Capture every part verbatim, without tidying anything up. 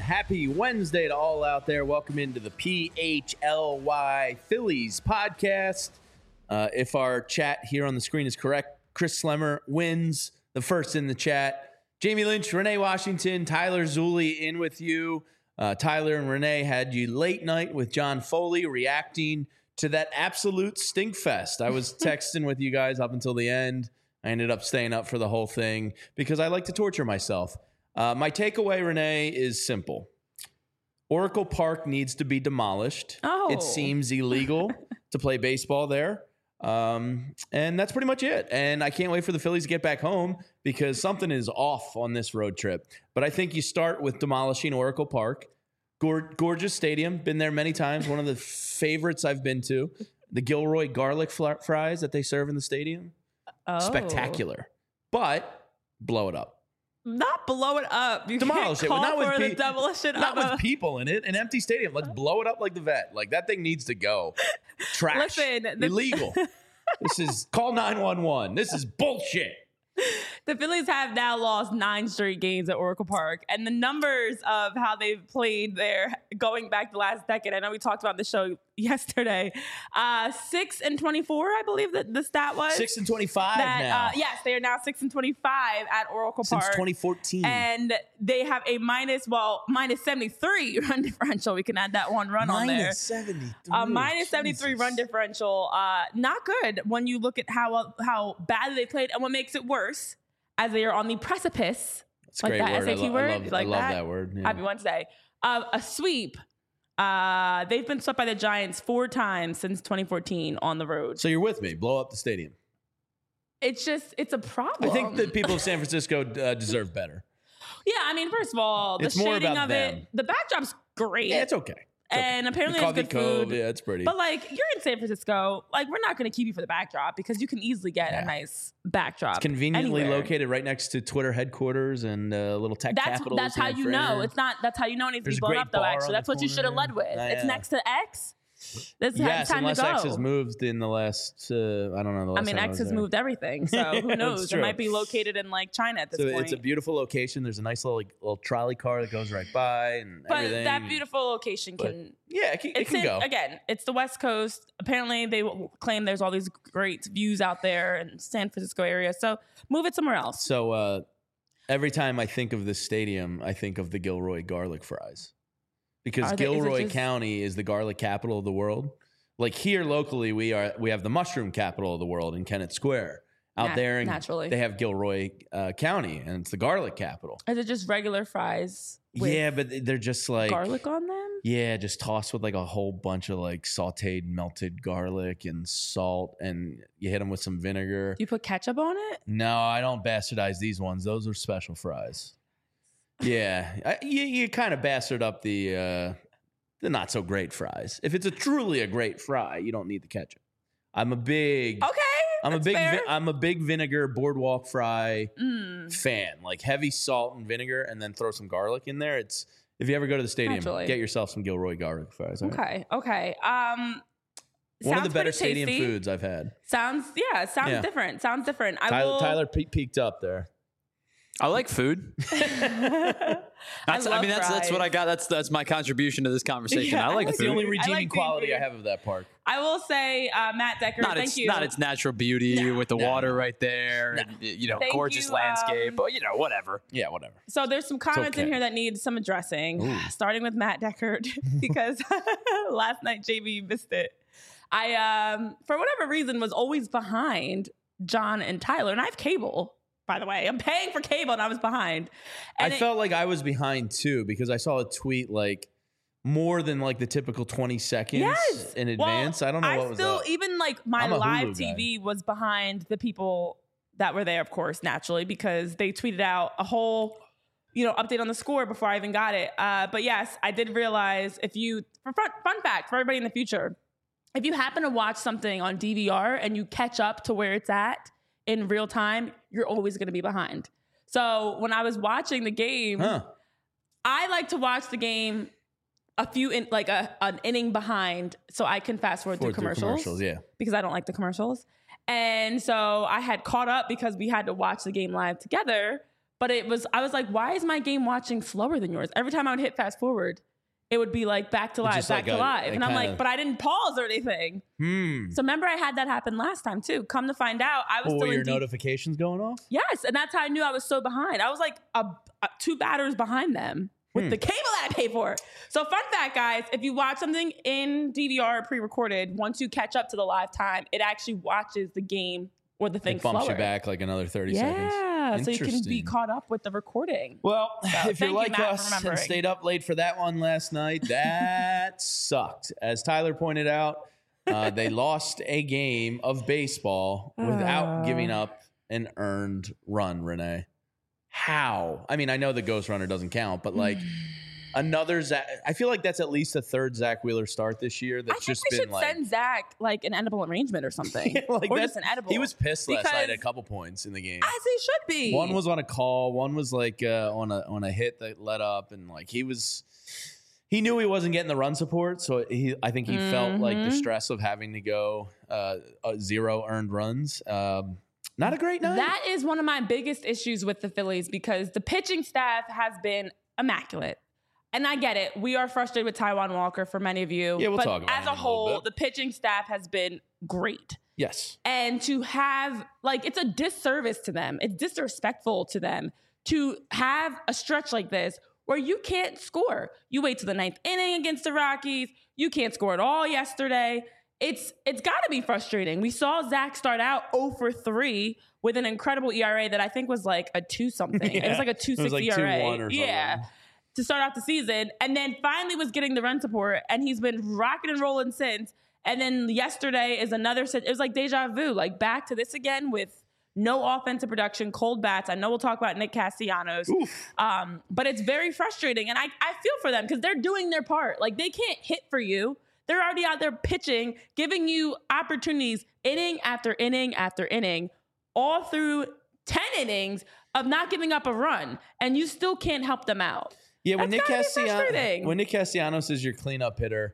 Happy Wednesday to all out there. Welcome into the P H L Y Phillies podcast. Uh, if our chat here on the screen is correct, Chris Slemmer wins the first in the chat. Jamie Lynch, Renee Washington, Tyler Zulli in with you. Uh, Tyler and Renee had you late night with John Foley reacting to that absolute stink fest. I was texting with you guys up until the end. I ended up staying up for the whole thing because I like to torture myself. Uh, my takeaway, Renee, is simple. Oracle Park needs to be demolished. Oh. It seems illegal to play baseball there. Um, and that's pretty much it. And I can't wait for the Phillies to get back home because something is off on this road trip. But I think you start with demolishing Oracle Park. Gor- gorgeous stadium. Been there many times. One of the favorites I've been to. The Gilroy garlic fl- fries that they serve in the stadium. Oh. Spectacular. But blow it up. Not blow it up. You Demolish can't it. call Not with for pe- the demolition Not of with a- people in it. An empty stadium. Let's blow it up like the vet. Like that thing needs to go. Trash. Listen, the- Illegal. This is call nine one one. This is bullshit. The Phillies have now lost nine straight games at Oracle Park, and the numbers of how they've played there going back the last decade. I know we talked about the show yesterday. Uh, six and twenty-four, I believe that the stat was. Six and twenty-five that, now. Uh, yes, they are now six and twenty-five at Oracle Since Park. twenty fourteen. And they have a minus, well, minus seventy-three run differential. We can add that one run on there. Minus seventy-three. Uh, minus seventy-three Jesus. run differential. Uh, not good when you look at how how badly they played. And what makes it worse, as they are on the precipice, It's a like great that word. S A T I lo- word, I love, like I love that? that word. Yeah. Happy Wednesday, uh, a sweep. Uh, they've been swept by the Giants four times since twenty fourteen on the road. So you're with me. Blow up the stadium. It's just, it's a problem. I think the people of San Francisco uh, deserve better. Yeah, I mean, first of all, the It's more shading about of them. it, the backdrop's great. Yeah, it's okay. It's okay. And apparently The it's Coffee good Cove, food. Yeah, it's pretty. But like, you're in San Francisco, like we're not going to keep you for the backdrop because you can easily get Yeah. a nice backdrop. It's conveniently anywhere. located right next to Twitter headquarters and uh, little tech That's capitals. that's how in you for know. air. It's not. That's how you know it needs There's to a be blown great up though. bar on Actually, the that's what you should have corner. led with. Ah, It's yeah. next to X. This Yes, time unless to go. X has moved in the last, uh, I don't know. The last I mean, time X was has there. moved everything, so who That's knows? It true. might be located in like China at this So point. it's a beautiful location. There's a nice little like, little trolley car that goes right by and but everything. that beautiful location But can. yeah, it can, it It's can in, go. again. It's the West Coast. Apparently, they will claim there's all these great views out there in San Francisco area. So move it somewhere else. So uh, every time I think of this stadium, I think of the Gilroy garlic fries because Are they- is it Gilroy just- County is the garlic capital of the world. Like here locally, we are we have the mushroom capital of the world in Kennett Square. Out Nat- there, in, naturally. they have Gilroy uh, County, and it's the garlic capital. Is it just regular fries with Yeah, but they're just like garlic on them? Yeah, just tossed with like a whole bunch of like sautéed melted garlic and salt, and you hit them with some vinegar. You put ketchup on it? No, I don't bastardize these ones. Those are special fries. Yeah, I, you you kind of bastard up the uh, the not so great fries. If it's a truly a great fry, you don't need the ketchup. I'm a big Okay. I'm a that's big fair. vi- I'm a big vinegar boardwalk fry Mm. fan. Like heavy salt and vinegar, and then throw some garlic in there. It's if you ever go to the stadium, Naturally. get yourself some Gilroy garlic fries. all right? Okay. Okay. Um, One of the sounds better pretty stadium tasty. foods I've had. Sounds yeah. Sounds Yeah. different. Sounds different. I Tyler, will. Tyler pe- peeked up there. I like food. That's, I, love mean, that's that's what fries. I got. That's that's my contribution to this conversation. Yeah, I I like like That's the food. only I redeeming like quality food. I have of that park. I will say, uh, Matt Decker. not thank its you. not its natural beauty No. with the No, water no. right there, and, you know, Thank gorgeous you, landscape. um, But you know, whatever. Yeah, whatever. So there's some comments in okay. here that need some addressing, Ooh. starting with Matt Deckard because last night J B missed it. I, um, for whatever reason, was always behind John and Tyler, and I have cable. By the way, I'm paying for cable, and I was behind. And I it- felt like I was behind too because I saw a tweet like more than like the typical twenty seconds Yes. in Well, advance. I don't know I what was still up. even like my I'm a live Hulu T V was behind the people that were there, of course, naturally, because they tweeted out a whole, you know, update on the score before I even got it. Uh, but yes, I did realize if you, for fun, fun fact for everybody in the future, if you happen to watch something on D V R and you catch up to where it's at in real time, you're always going to be behind. So when I was watching the game, Huh. I like to watch the game a few in like a an inning behind so I can fast forward through Forward through commercials, commercials, yeah. because I don't like the commercials. And so I had caught up because we had to watch the game live together, but it was, I was like, why is my game watching slower than yours? Every time I would hit fast forward, it would be like back to live, just back like to a- live. a And I'm kinda- like, but I didn't pause or anything. Hmm. So remember I had that happen last time too. Come to find out, I was Oh, still were in your deep. notifications going off? Yes, and that's how I knew I was so behind. I was like a, a, two batters behind them with Hmm. the cable that I pay for. So fun fact, guys, if you watch something in D V R or pre-recorded, once you catch up to the live time, it actually watches the game or the thing It bumps slower. you back like another thirty seconds. Yeah, so you can be Interesting. caught up with the recording. Well, if thank you're you, like Matt, for us and remembering. stayed up late for that one last night, that sucked. As Tyler pointed out, uh, they lost a game of baseball without Uh. giving up an earned run, Renee. How? I mean, I know the ghost runner doesn't count, but like another Zach. I feel like that's at least a third Zach Wheeler start this year. I That's think just we been should like, send Zach like an edible arrangement or something, like or that's- just an edible. he was pissed last night at a Because- couple points in the game. as he should be. One was on a call. One was like uh, on a on a hit that let up, and like he was, he knew he wasn't getting the run support, so he I think he felt like the Mhm. stress of having to go uh, uh, zero earned runs. Um, not a great night. That is one of my biggest issues with the Phillies because the pitching staff has been immaculate. And I get it. We are frustrated with Taijuan Walker for many of you. Yeah, we'll but talk about as him a in a little whole, bit. the pitching staff has been great. Yes. And to have, like, it's a disservice to them. It's disrespectful to them to have a stretch like this where you can't score. You wait to the ninth inning against the Rockies. You can't score at all yesterday. It's it's got to be frustrating. We saw Zach start out oh for three with an incredible E R A that I think was like a two something. It was like a two It was six like E R A. two one or something. Yeah. To start off the season, and then finally was getting the run support, and he's been rocking and rolling since. And then yesterday is another. It was like deja vu, like back to this again with no offensive production, cold bats. I know we'll talk about Nick Castellanos, um, but it's very frustrating, and I I feel for them because they're doing their part. Like they can't hit for you. They're already out there pitching, giving you opportunities inning after inning after inning, all through ten innings of not giving up a run, and you still can't help them out. Yeah, when That's Nick gotta be Castellanos frustrating. when Nick Castellanos is your cleanup hitter,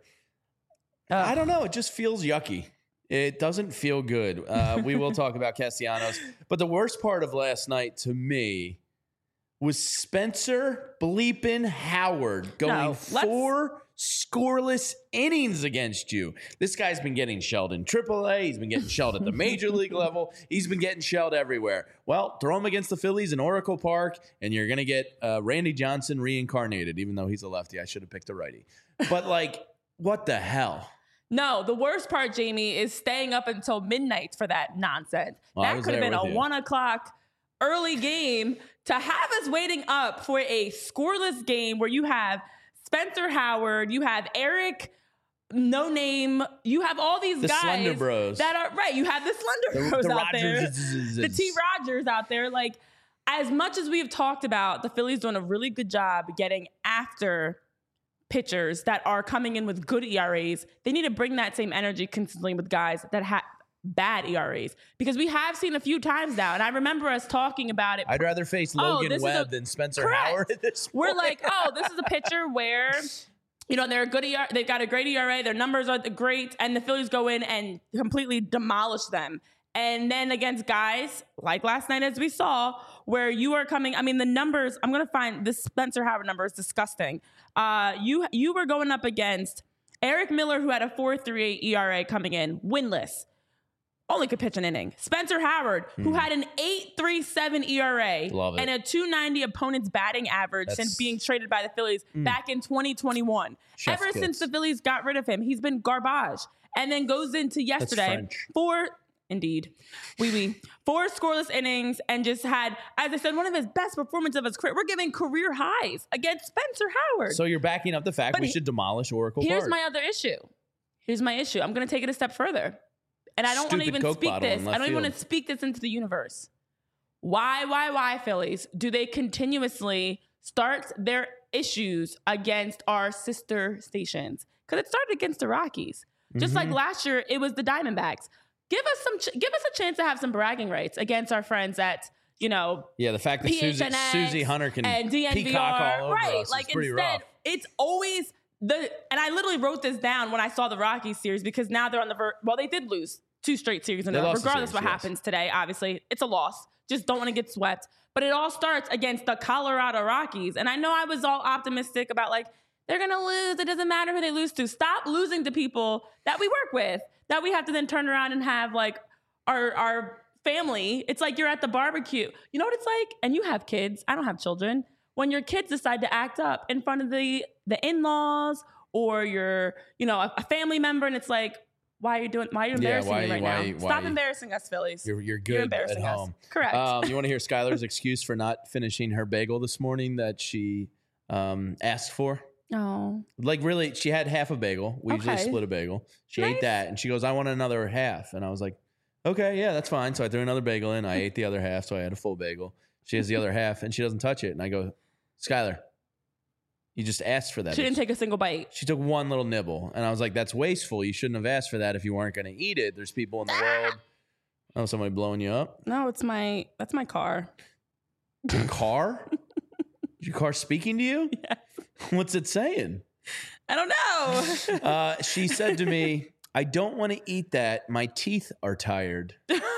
I don't know. It just feels yucky. It doesn't feel good. Uh, we will talk about Castellanos, but the worst part of last night to me was Spencer bleeping Howard going No, let's- four scoreless innings against you. This guy's been getting shelled in triple A. He's been getting shelled at the major league level. He's been getting shelled everywhere. Well, throw him against the Phillies in Oracle Park, and you're going to get uh, Randy Johnson reincarnated, even though he's a lefty. I should have picked a righty. But, like, what the hell? No, the worst part, Jamie, is staying up until midnight for that nonsense. Well, I that was could have there been a with you. one o'clock early game to have us waiting up for a scoreless game where you have Spencer Howard, you have Eric, no name, you have all these The guys Slender Bros. that are right. You have the Slender The- Bros the out there, Rogers- the T Rogers out there. Like as much as we have talked about, the Phillies doing a really good job getting after pitchers that are coming in with good E R As. They need to bring that same energy consistently with guys that have bad E R As because we have seen a few times now, and I remember us talking about it. I'd rather face Oh, Logan this is Webb a- than Spencer Correct. Howard at this We're point. like, oh, this is a pitcher where, you know, they're a good E R A. They've got a great E R A. Their numbers are great, and the Phillies go in and completely demolish them. And then against guys like last night, as we saw, where you are coming. I mean, the numbers. I'm gonna find this Spencer Howard number is disgusting. Uh, you you were going up against Eric Miller, who had a four point three eight E R A coming in, winless. Only could pitch an inning. Spencer Howard, who had an eight point three seven E R A Love it. and a two ninety opponent's batting average That's- since being traded by the Phillies back in twenty twenty-one. Chef Ever kiss. since the Phillies got rid of him, he's been garbage. And then goes into yesterday French. four, indeed, wee wee, four scoreless innings and just had, as I said, one of his best performances of his career. We're giving career highs against Spencer Howard. So you're backing up the fact But we he- should demolish Oracle Here's Park. my other issue. Here's my issue. I'm going to take it a step further. And I don't want to Stupid even Coke speak bottle in this. left I don't even want field. to speak this into the universe. Why, why, why, Phillies, do they continuously start their issues against our sister stations? Because it started against the Rockies. Just Mm-hmm. like last year, it was the Diamondbacks. Give us some. Ch- give us a chance to have some bragging rights against our friends at, you know, Yeah, the fact that Susie, P H N X Susie Hunter can and D N V R, peacock all over right? us Like is pretty instead, rough. it's always the. And I literally wrote this down when I saw the Rockies series because now they're on the ver- well, they did lose two straight series in They a row. lost the Regardless series, what yes. happens today, obviously, it's a loss. Just don't want to get swept. But it all starts against the Colorado Rockies. And I know I was all optimistic about, like, they're going to lose. It doesn't matter who they lose to. Stop losing to people that we work with, that we have to then turn around and have, like, our our family. It's like you're at the barbecue. You know what it's like? And you have kids. I don't have children. When your kids decide to act up in front of the, the in-laws or your, you know, a, a family member, and it's like, why are you doing? Why are you Yeah, embarrassing why- me right why- now? why- Stop embarrassing us, Phillies. You're, you're good You're at embarrassing us. home. Correct. Um, you want to hear Skylar's excuse for not finishing her bagel this morning that she um, asked for? Oh. Like, really, she had half a bagel. We usually Okay. split a bagel. She Nice. ate that, and she goes, I want another half. And I was like, okay, yeah, that's fine. So I threw another bagel in. I ate the other half, so I had a full bagel. She has the other half, and she doesn't touch it. And I go, Skylar, you just asked for that. She didn't take a single bite. She took one little nibble. And I was like, that's wasteful. You shouldn't have asked for that if you weren't going to eat it. There's people in the world. Oh, somebody blowing you up? No, it's my, that's my car. Your car? Is your car speaking to you? Yes. What's it saying? I don't know. Uh, she said to me, I don't want to eat that. My teeth are tired.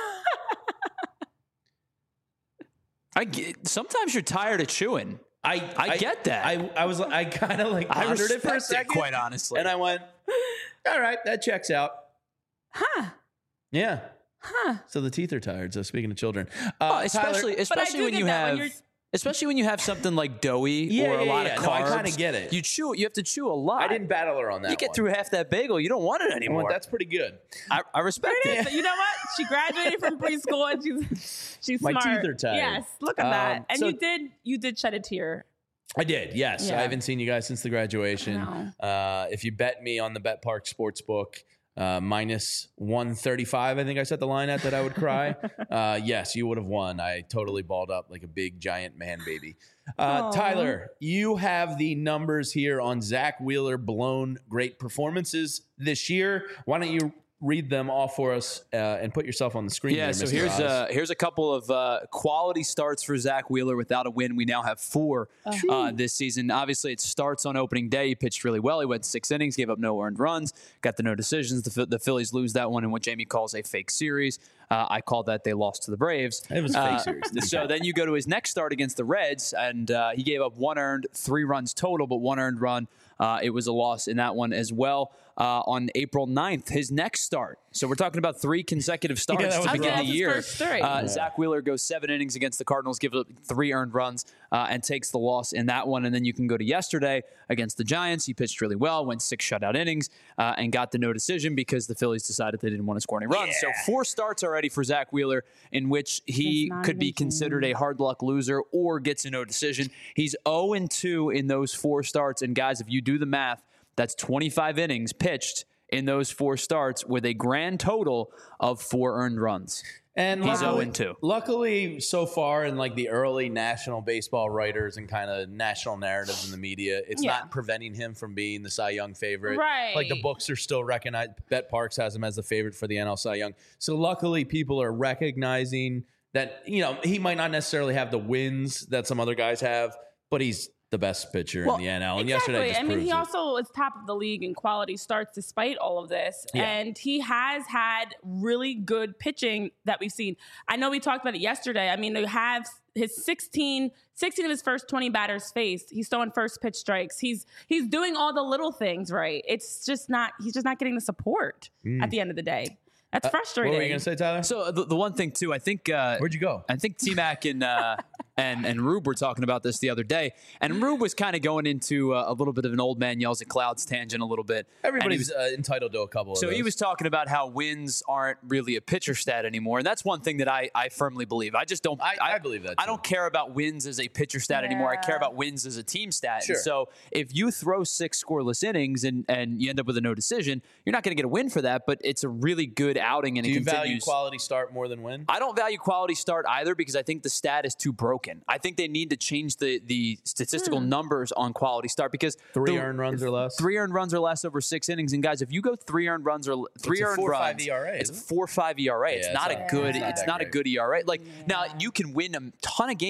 I get, sometimes you're tired of chewing. I I get that. I, I was I kind of like I pondered it for a respect it, second, quite honestly. and I went, all right, that checks out. Huh. Yeah. Huh. So the teeth are tired. So speaking of children, uh, Oh, especially Tyler, especially do when get you that when have you're- especially when you have something like doughy Yeah, or a yeah, lot yeah. of No, I carbs. kinda get it. You chew. You have to chew a lot. I didn't battle her on that. You get one. through half that bagel, you don't want it I anymore. went, that's pretty good. I, I respect There it it. is. You know what? She graduated from preschool and she's she's My smart. teeth are tired. Yes, look at Um, that. And so- you did you did shed a tear. I did, yes. Yeah. I haven't seen you guys since the graduation. I Uh, if you bet me on the Bet Park Sportsbook, uh, minus one thirty-five, I think I set the line at that I would cry. uh, yes, you would have won. I totally balled up like a big giant man baby. Uh, Aw. Tyler, you have the numbers here on Zach Wheeler blown great performances this year. Why don't you read them all for us uh, and put yourself on the screen? Yeah, there, so Mister here's Oz. uh, here's a couple of uh, quality starts for Zach Wheeler without a win. We now have four uh, this season. Obviously, it starts on opening day. He pitched really well. He went six innings, gave up no earned runs, got the no decisions. The, Phil- the Phillies lose that one in what Jamie calls a fake series. Uh, I called that they lost to the Braves. It was a fake Uh, series. So then you go to his next start against the Reds, and uh, he gave up one earned, three runs total, but one earned run. Uh, it was a loss in that one as well. Uh, on April ninth, his next start. So we're talking about three consecutive starts that was to rough. begin the His year. first three. Uh, Yeah. Zach Wheeler goes seven innings against the Cardinals, gives up three earned runs, uh, and takes the loss in that one. And then you can go to yesterday against the Giants. He pitched really well, went six shutout innings, uh, and got the no decision because the Phillies decided they didn't want to score any runs. So four starts already for Zach Wheeler in which he It's not could be even considered a hard luck loser or gets a no decision. He's oh and two in those four starts. And guys, if you do the math, that's twenty-five innings pitched in those four starts with a grand total of four earned runs. And He's luckily- oh and two. Luckily, so far in like the early national baseball writers and kind of national narratives in the media, it's Yeah. not preventing him from being the Cy Young favorite. Right. Like the books are still recognized. Bet Parks has him as the favorite for the N L Cy Young. So luckily, people are recognizing that, you know, he might not necessarily have the wins that some other guys have, but he's the best pitcher Well, in the N L. And Exactly. yesterday just I mean, proves he it. also is top of the league in quality starts despite all of this. Yeah. And he has had really good pitching that we've seen. I know we talked about it yesterday. I mean, they have his sixteen, sixteen of his first twenty batters faced. He's throwing first pitch strikes. He's he's doing all the little things right. It's just not, he's just not getting the support at the end of the day. That's What frustrating. were you going to say, Tyler? So the, the one thing too, I think uh, Where'd you go? I think T Mac and uh, and and Rube were talking about this the other day, and Rube was kind of going into uh, a little bit of an old man yells at clouds tangent a little bit. And he Everybody's was- uh, entitled to a couple of so those. he was talking about how wins aren't really a pitcher stat anymore, and that's one thing that I, I firmly believe. I just don't. I- I believe that, I too. don't care about wins as a pitcher stat anymore. I care Yeah. about wins as a team stat. Sure. And so if you throw six scoreless innings and and you end up with a no decision, you're not going to get a win for that. But it's a really good outing, and Do it you continues. value quality start more than win? I don't value quality start either because I think the stat is too broken. I think they need to change the the statistical numbers on quality start because Three the- earned runs or less? Three earned runs or less over six innings. And guys, if you go three earned runs or three a earned four five runs, E R A, it's a isn't it? four five E R A. It's Yeah, not it's a not- good. it's not It's that not a great. good E R A. Like now, you can win a ton of games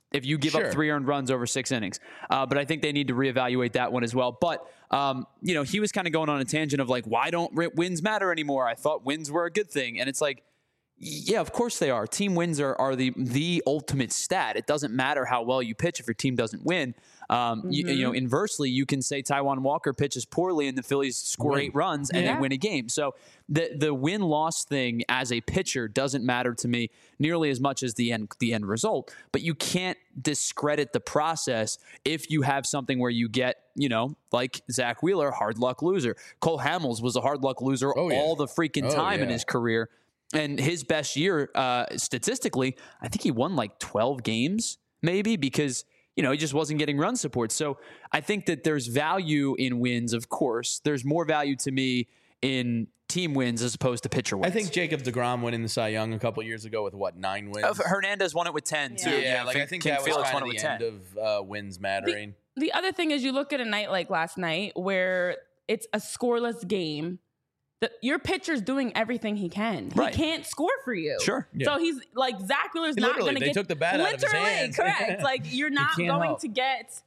if you give Sure. up three earned runs over six innings. Uh, but I think they need to reevaluate that one as well. But, um, you know, he was kind of going on a tangent of like, why don't wins matter anymore? I thought wins were a good thing. And it's like, yeah, of course they are. Team wins are, are the the ultimate stat. It doesn't matter how well you pitch if your team doesn't win. Um, mm-hmm. you, you know, inversely, you can say Taijuan Walker pitches poorly and the Phillies score win. eight runs and yeah. they win a game. So the the win loss thing as a pitcher doesn't matter to me nearly as much as the end the end result. But you can't discredit the process if you have something where you get, you know, like Zach Wheeler, hard luck loser. Cole Hamels was a hard luck loser oh, yeah. all the freaking oh, time yeah. in his career. And his best year, uh, statistically, I think he won like twelve games, maybe, because, you know, he just wasn't getting run support. So I think that there's value in wins, of course. There's more value to me in team wins as opposed to pitcher wins. I think Jacob deGrom winning the Cy Young a couple years ago with, what, nine wins? Uh, Hernandez won it with ten, yeah. too. Yeah, yeah like King, I think King that was Felix kind won of it the with end ten. of uh, wins mattering. The, the other thing is you look at a night like last night where it's a scoreless game. The, your pitcher's doing everything he can. He right. can't score for you. Sure. Yeah. So he's like, Zach Wheeler's he not going to get. They took the bat out of his hands. Correct. Like, you're not going help. to get,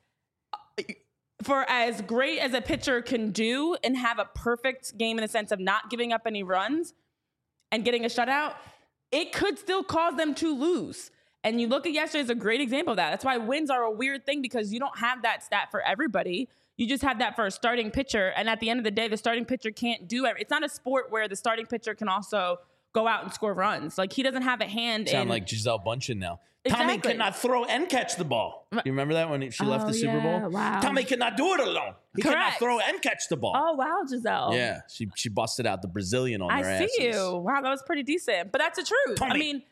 for as great as a pitcher can do and have a perfect game in the sense of not giving up any runs and getting a shutout, it could still cause them to lose. And you look at yesterday as a great example of that. That's why wins are a weird thing, because you don't have that stat for everybody. You just have that for a starting pitcher. And at the end of the day, the starting pitcher can't do it. It's not a sport where the starting pitcher can also go out and score runs. Like, he doesn't have a hand Sound in. like Giselle Bundchen now. Exactly. Tommy cannot throw and catch the ball. You remember that when she left Oh, the Super yeah. Bowl? Wow. Tommy cannot do it alone. He Correct. cannot throw and catch the ball. Oh, wow, Giselle. Yeah, she she busted out the Brazilian on I their see asses. you. Wow, that was pretty decent. But that's the truth. Tommy. I mean,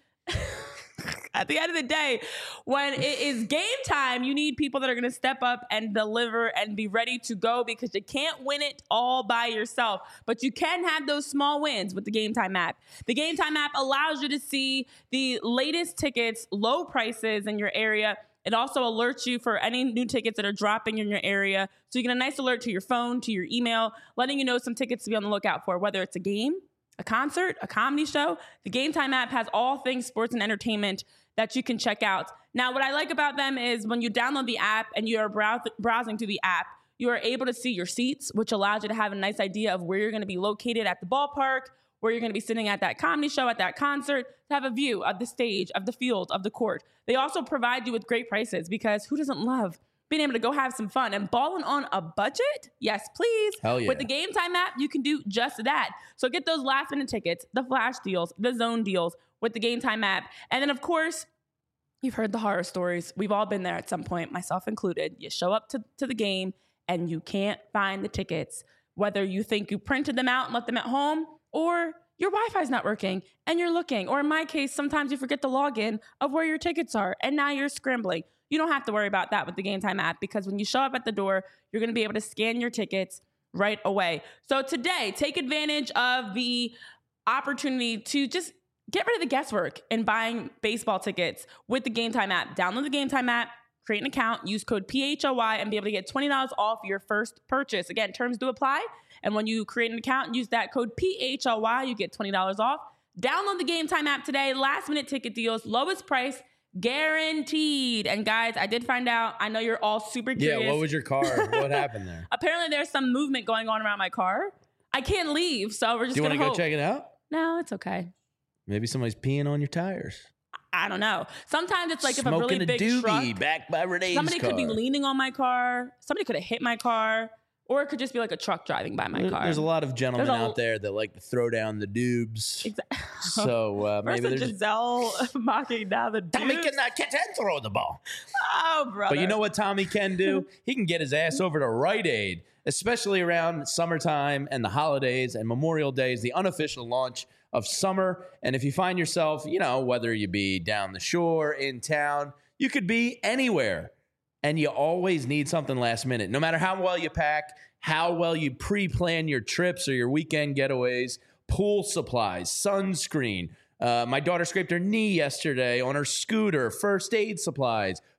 at the end of the day, when it is game time, you need people that are going to step up and deliver and be ready to go, because you can't win it all by yourself. But you can have those small wins with the Game Time app. The Game Time app allows you to see the latest tickets, low prices in your area. It also alerts you for any new tickets that are dropping in your area. So you get a nice alert to your phone, to your email, letting you know some tickets to be on the lookout for, whether it's a game, a concert, a comedy show. The Game Time app has all things sports and entertainment that you can check out. Now, what I like about them is when you download the app and you are brow- browsing through the app, you are able to see your seats, which allows you to have a nice idea of where you're going to be located at the ballpark, where you're going to be sitting at that comedy show, at that concert, to have a view of the stage, of the field, of the court. They also provide you with great prices, because who doesn't love being able to go have some fun and balling on a budget? Yes, please. Hell yeah. With the Game Time app, you can do just that. So get those last minute tickets, the flash deals, the zone deals with the Game Time app. And then, of course, you've heard the horror stories. We've all been there at some point, myself included. You show up to, to the game and you can't find the tickets, whether you think you printed them out and left them at home, or your Wi-Fi's not working and you're looking. Or in my case, sometimes you forget the login of where your tickets are and now you're scrambling. You don't have to worry about that with the Game Time app, because when you show up at the door, you're going to be able to scan your tickets right away. So today, take advantage of the opportunity to just get rid of the guesswork in buying baseball tickets with the Game Time app. Download the Game Time app, create an account, use code P H O Y, and be able to get twenty dollars off your first purchase. Again, terms do apply. And when you create an account and use that code P H O Y, you get twenty dollars off. Download the Game Time app today. Last minute ticket deals, lowest price guaranteed. And guys, I did find out, I know you're all super curious. Yeah, what was your car? What happened there? Apparently there's some movement going on around my car. I can't leave, so we're just Do you going want to to go check it out? No, it's okay. Maybe somebody's peeing on your tires. I don't know. Sometimes it's like Smoking if a really big a doobie truck, back by Renee's somebody car. could be leaning on my car. Somebody could have hit my car. Or it could just be like a truck driving by my There- car. There's a lot of gentlemen There's a- out there that like to throw down the doobs. Exactly. So uh, maybe Versus there's. Giselle mocking down the Tommy dudes. cannot catch and throw the ball. Oh, brother. But you know what Tommy can do? He can get his ass over to Rite Aid, especially around summertime and the holidays, and Memorial Day is the unofficial launch of summer. And if you find yourself, you know, whether you be down the shore, in town, you could be anywhere. And you always need something last minute. No matter how well you pack, how well you pre-plan your trips or your weekend getaways, pool supplies, sunscreen. Uh, my daughter scraped her knee yesterday on her scooter, first aid supplies,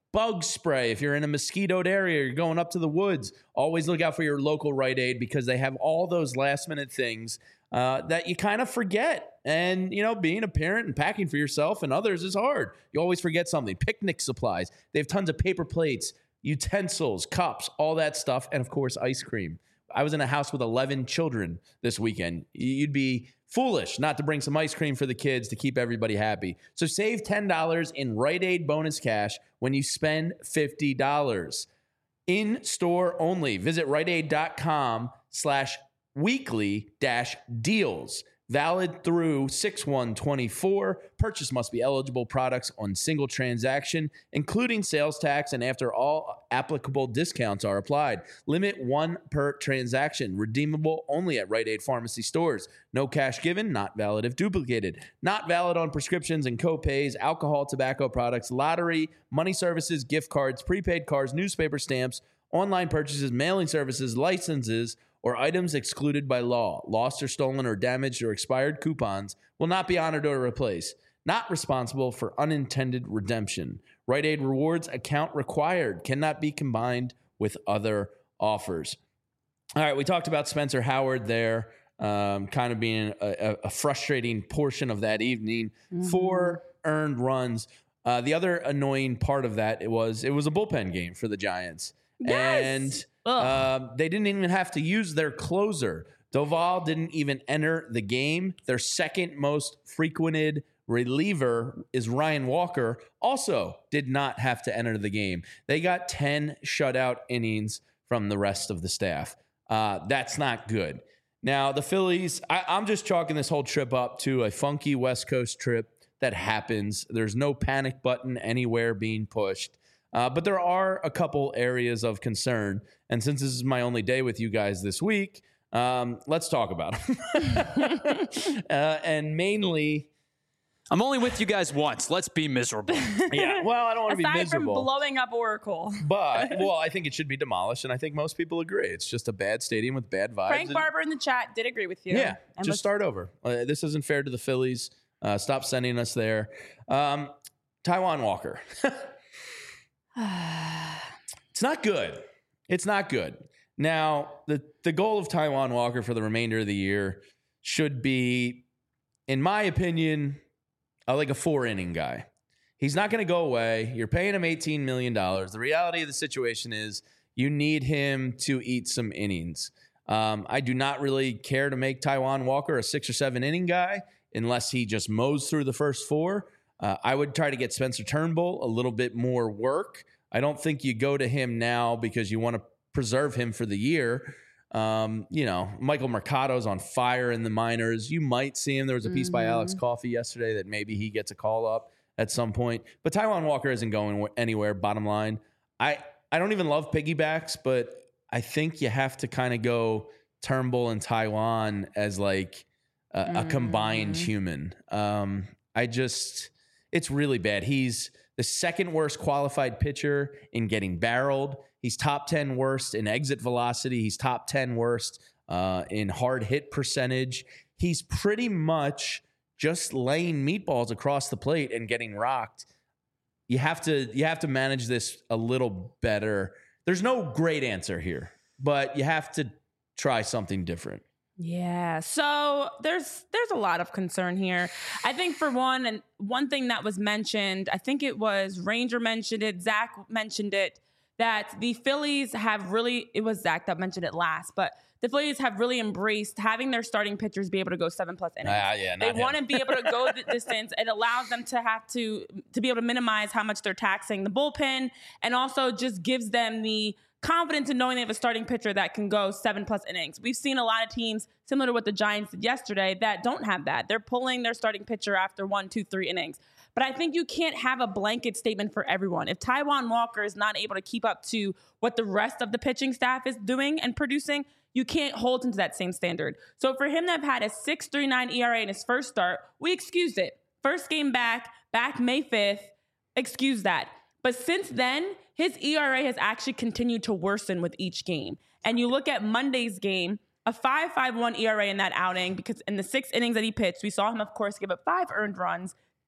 bug spray. If you're in a mosquitoed area, you're going up to the woods, always look out for your local Rite Aid because they have all those last minute things uh, that you kind of forget. And, you know, being a parent and packing for yourself and others is hard. You always forget something. Picnic supplies. They have tons of paper plates, utensils, cups, all that stuff. And, of course, ice cream. I was in a house with eleven children this weekend. You'd be foolish not to bring some ice cream for the kids to keep everybody happy. So save ten dollars in Rite Aid bonus cash when you spend fifty dollars. In store only. Visit riteaid.com slash weekly dash deals. Valid through six one twenty-four. Purchase must be eligible products on single transaction, including sales tax, and after all applicable discounts are applied. Limit one per transaction. Redeemable only at Rite Aid Pharmacy stores. No cash given. Not valid if duplicated. Not valid on prescriptions and co-pays, alcohol, tobacco products, lottery, money services, gift cards, prepaid cards, newspaper stamps, online purchases, mailing services, licenses, or items excluded by law. Lost or stolen or damaged or expired coupons will not be honored or replaced. Not responsible for unintended redemption. Rite Aid Rewards account required. Cannot be combined with other offers. All right, we talked about Spencer Howard there, um, kind of being a, a frustrating portion of that evening. Mm-hmm. Four earned runs. Uh, the other annoying part of that it was it was a bullpen game for the Giants. Yes. And uh, they didn't even have to use their closer. Doval didn't even enter the game. Their second most frequented reliever is Ryan Walker. Also did not have to enter the game. They got ten shutout innings from the rest of the staff. Uh, that's not good. Now, the Phillies, I, I'm just chalking this whole trip up to a funky West Coast trip that happens. There's no panic button anywhere being pushed. Uh, but there are a couple areas of concern. And since this is my only day with you guys this week, um, let's talk about them. uh, and mainly... I'm only with you guys once. Let's be miserable. Yeah, well, I don't want to be Aside miserable. from blowing up Oracle. But, well, I think it should be demolished, and I think most people agree. It's just a bad stadium with bad vibes. Frank and, Barber in the chat did agree with you. Yeah, and just start over. Uh, this isn't fair to the Phillies. Uh, stop sending us there. Um, Taijuan Walker. It's not good. It's not good. Now, the, the goal of Taijuan Walker for the remainder of the year should be, in my opinion, uh, like a four-inning guy. He's not going to go away. You're paying him eighteen million dollars. The reality of the situation is you need him to eat some innings. Um, I do not really care to make Taijuan Walker a six- or seven-inning guy unless he just mows through the first four. Uh, I would try to get Spencer Turnbull a little bit more work. I don't think you go to him now because you want to preserve him for the year. Um, you know, Michael Mercado's on fire in the minors. You might see him. There was a piece mm-hmm. by Alex Coffey yesterday that maybe he gets a call up at some point. But Taijuan Walker isn't going anywhere, bottom line. I, I don't even love piggybacks, but I think you have to kind of go Turnbull and Taijuan as like a, mm-hmm. a combined human. Um, I just... It's really bad. He's the second worst qualified pitcher in getting barreled. He's top ten worst in exit velocity. He's top ten worst uh, in hard hit percentage. He's pretty much just laying meatballs across the plate and getting rocked. You have to you have to manage this a little better. There's no great answer here, but you have to try something different. Yeah. So there's there's a lot of concern here. I think for one, and one thing that was mentioned, I think it was Ranger mentioned it, Zach mentioned it, that the Phillies have really, it was Zach that mentioned it last, but the Phillies have really embraced having their starting pitchers be able to go seven plus innings. Uh, yeah, they want to be able to go the distance. It allows them to have to to be able to minimize how much they're taxing the bullpen, and also just gives them the confidence in knowing they have a starting pitcher that can go seven plus innings. We've seen a lot of teams, similar to what the Giants did yesterday, that don't have that. They're pulling their starting pitcher after one, two, three innings. But I think you can't have a blanket statement for everyone. If Taijuan Walker is not able to keep up to what the rest of the pitching staff is doing and producing, you can't hold him to that same standard. So for him to have had a six point three nine E R A in his first start, we excused it. First game back, back May fifth, excuse that. But since then, his E R A has actually continued to worsen with each game. And you look at Monday's game, a five point five one E R A in that outing, because in the six innings that he pitched, we saw him, of course, give up five earned runs,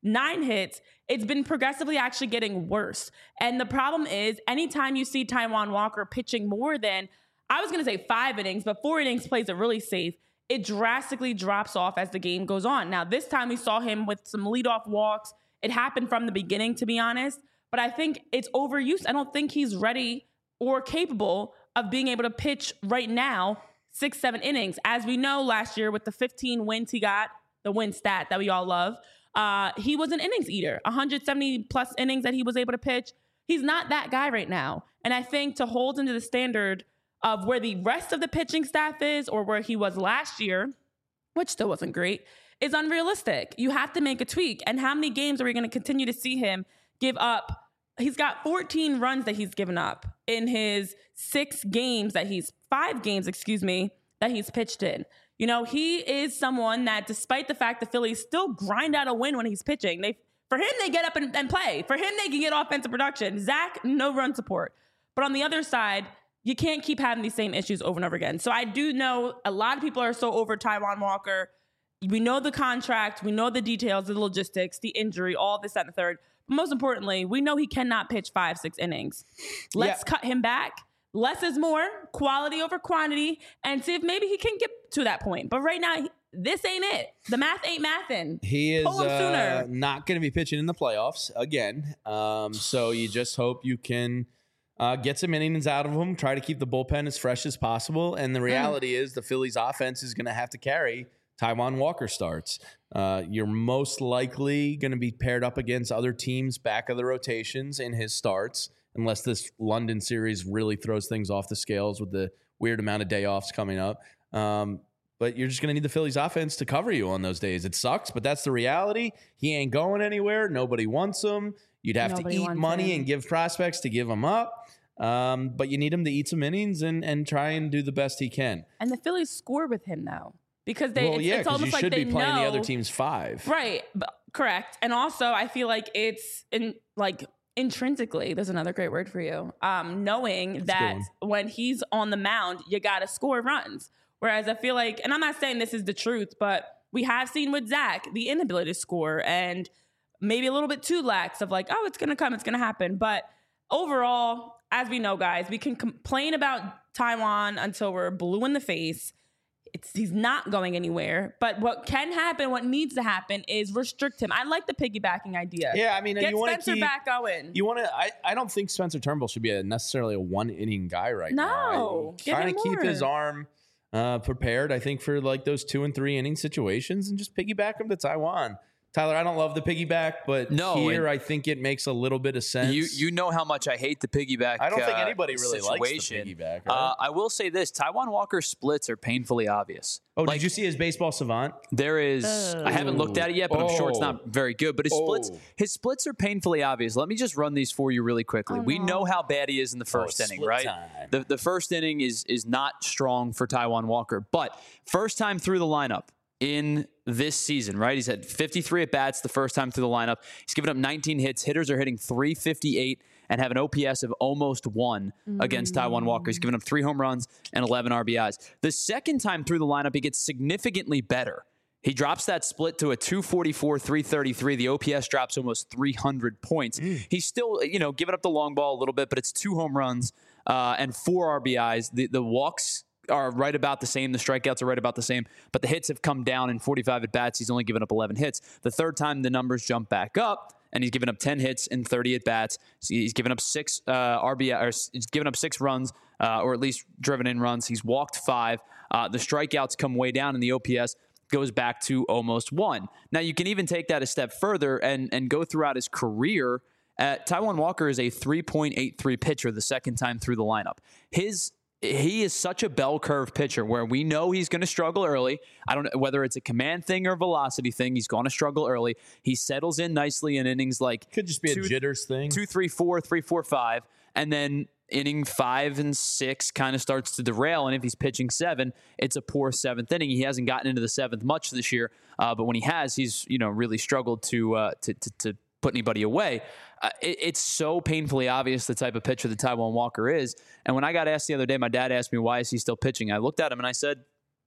nine hits. It's been progressively actually getting worse. And the problem is, anytime you see Taijuan Walker pitching more than, I was going to say five innings, but four innings plays it really safe, it drastically drops off as the game goes on. Now, this time we saw him with some leadoff walks. It happened from the beginning, to be honest. But I think it's overused. I don't think he's ready or capable of being able to pitch right now six, seven innings. As we know, last year with the fifteen wins he got, the win stat that we all love, uh, he was an innings eater, one hundred seventy plus innings that he was able to pitch. He's not that guy right now. And I think to hold him to the standard of where the rest of the pitching staff is or where he was last year, which still wasn't great, is unrealistic. You have to make a tweak. And how many games are we going to continue to see him give up? He's got fourteen runs that he's given up in his six games that he's, five games, excuse me, that he's pitched in. You know, he is someone that, despite the fact the Phillies still grind out a win when he's pitching, they, for him, they get up and, and play. For him, they can get offensive production. Zach, no run support. But on the other side, you can't keep having these same issues over and over again. So I do know a lot of people are so over Taijuan Walker. We know the contract. We know the details, the logistics, the injury, all this, that, and the third. But most importantly, we know he cannot pitch five, six innings. Let's yeah. cut him back. Less is more, quality over quantity, and see if maybe he can get to that point. But right now, this ain't it. The math ain't mathin'. He is uh, not going to be pitching in the playoffs again. Um, so you just hope you can uh, get some innings out of him, try to keep the bullpen as fresh as possible. And the reality mm. is the Phillies offense is going to have to carry Taijuan Walker starts. Uh, you're most likely going to be paired up against other teams' back of the rotations in his starts, unless this London series really throws things off the scales with the weird amount of day offs coming up. Um, but you're just going to need the Phillies offense to cover you on those days. It sucks, but that's the reality. He ain't going anywhere. Nobody wants him. You'd have Nobody to eat money him. and give prospects to give him up. Um, but you need him to eat some innings and, and try and do the best he can. And the Phillies score with him, though. Because they, well, it's, yeah, it's almost you like should they be playing know, the other team's five, right? But, correct. And also, I feel like it's in like intrinsically. There's another great word for you. Um, knowing That's that when he's on the mound, you got to score runs. Whereas I feel like, and I'm not saying this is the truth, but we have seen with Zach the inability to score and maybe a little bit too lax of like, oh, it's gonna come, it's gonna happen. But overall, as we know, guys, we can complain about Taijuan until we're blue in the face. It's, he's not going anywhere. But what can happen, what needs to happen, is restrict him. I like the piggybacking idea. Yeah, I mean, get you want Spencer to keep, back going. You want to? I, I don't think Spencer Turnbull should be a necessarily a one inning guy right no, now. No, trying to keep his arm uh, prepared. I think for like those two and three inning situations, and just piggyback him to Taijuan. Tyler, I don't love the piggyback, but no, here I think it makes a little bit of sense. You you know how much I hate the piggyback. I don't think uh, anybody really situation. likes the piggyback. Right? Uh, I will say this: Taijuan Walker's splits are painfully obvious. Oh, like, did you see his baseball savant? There is. Oh. I haven't looked at it yet, but oh. I'm sure it's not very good. But his oh. splits, his splits are painfully obvious. Let me just run these for you really quickly. Oh, we no. know how bad he is in the first oh, inning, right? Time. The the first inning is is not strong for Taijuan Walker, but first time through the lineup in this season, right? He's had fifty-three at bats the first time through the lineup. He's given up nineteen hits. Hitters are hitting three fifty-eight and have an O P S of almost one mm. against Taijuan Walker. He's given up three home runs and eleven R B Is. The second time through the lineup, he gets significantly better. He drops that split to a two forty-four, three thirty-three. The O P S drops almost three hundred points. Mm. He's still, you know, giving up the long ball a little bit, but it's two home runs uh, and four R B Is. The, the walks are right about the same. The strikeouts are right about the same, but the hits have come down in forty-five at bats. He's only given up eleven hits. The third time the numbers jump back up, and he's given up ten hits and thirty at bats. So he's given up six uh, R B I, or he's given up six runs, uh, or at least driven in runs. He's walked five. Uh, the strikeouts come way down, and the O P S goes back to almost one. Now you can even take that a step further and and go throughout his career. Uh, Taijuan Walker is a three point eight three pitcher the second time through the lineup. His He is such a bell curve pitcher where we know he's going to struggle early. I don't know whether it's a command thing or velocity thing. He's going to struggle early. He settles in nicely in innings like could just be two, a jitters thing. Two, three, four, three, four, five, and then inning five and six kind of starts to derail. And if he's pitching seven, it's a poor seventh inning. He hasn't gotten into the seventh much this year, uh, but when he has, he's you know really struggled to uh, to, to to put anybody away. Uh, it, it's so painfully obvious the type of pitcher that Taijuan Walker is. And when I got asked the other day, my dad asked me, why is he still pitching? I looked at him and I said,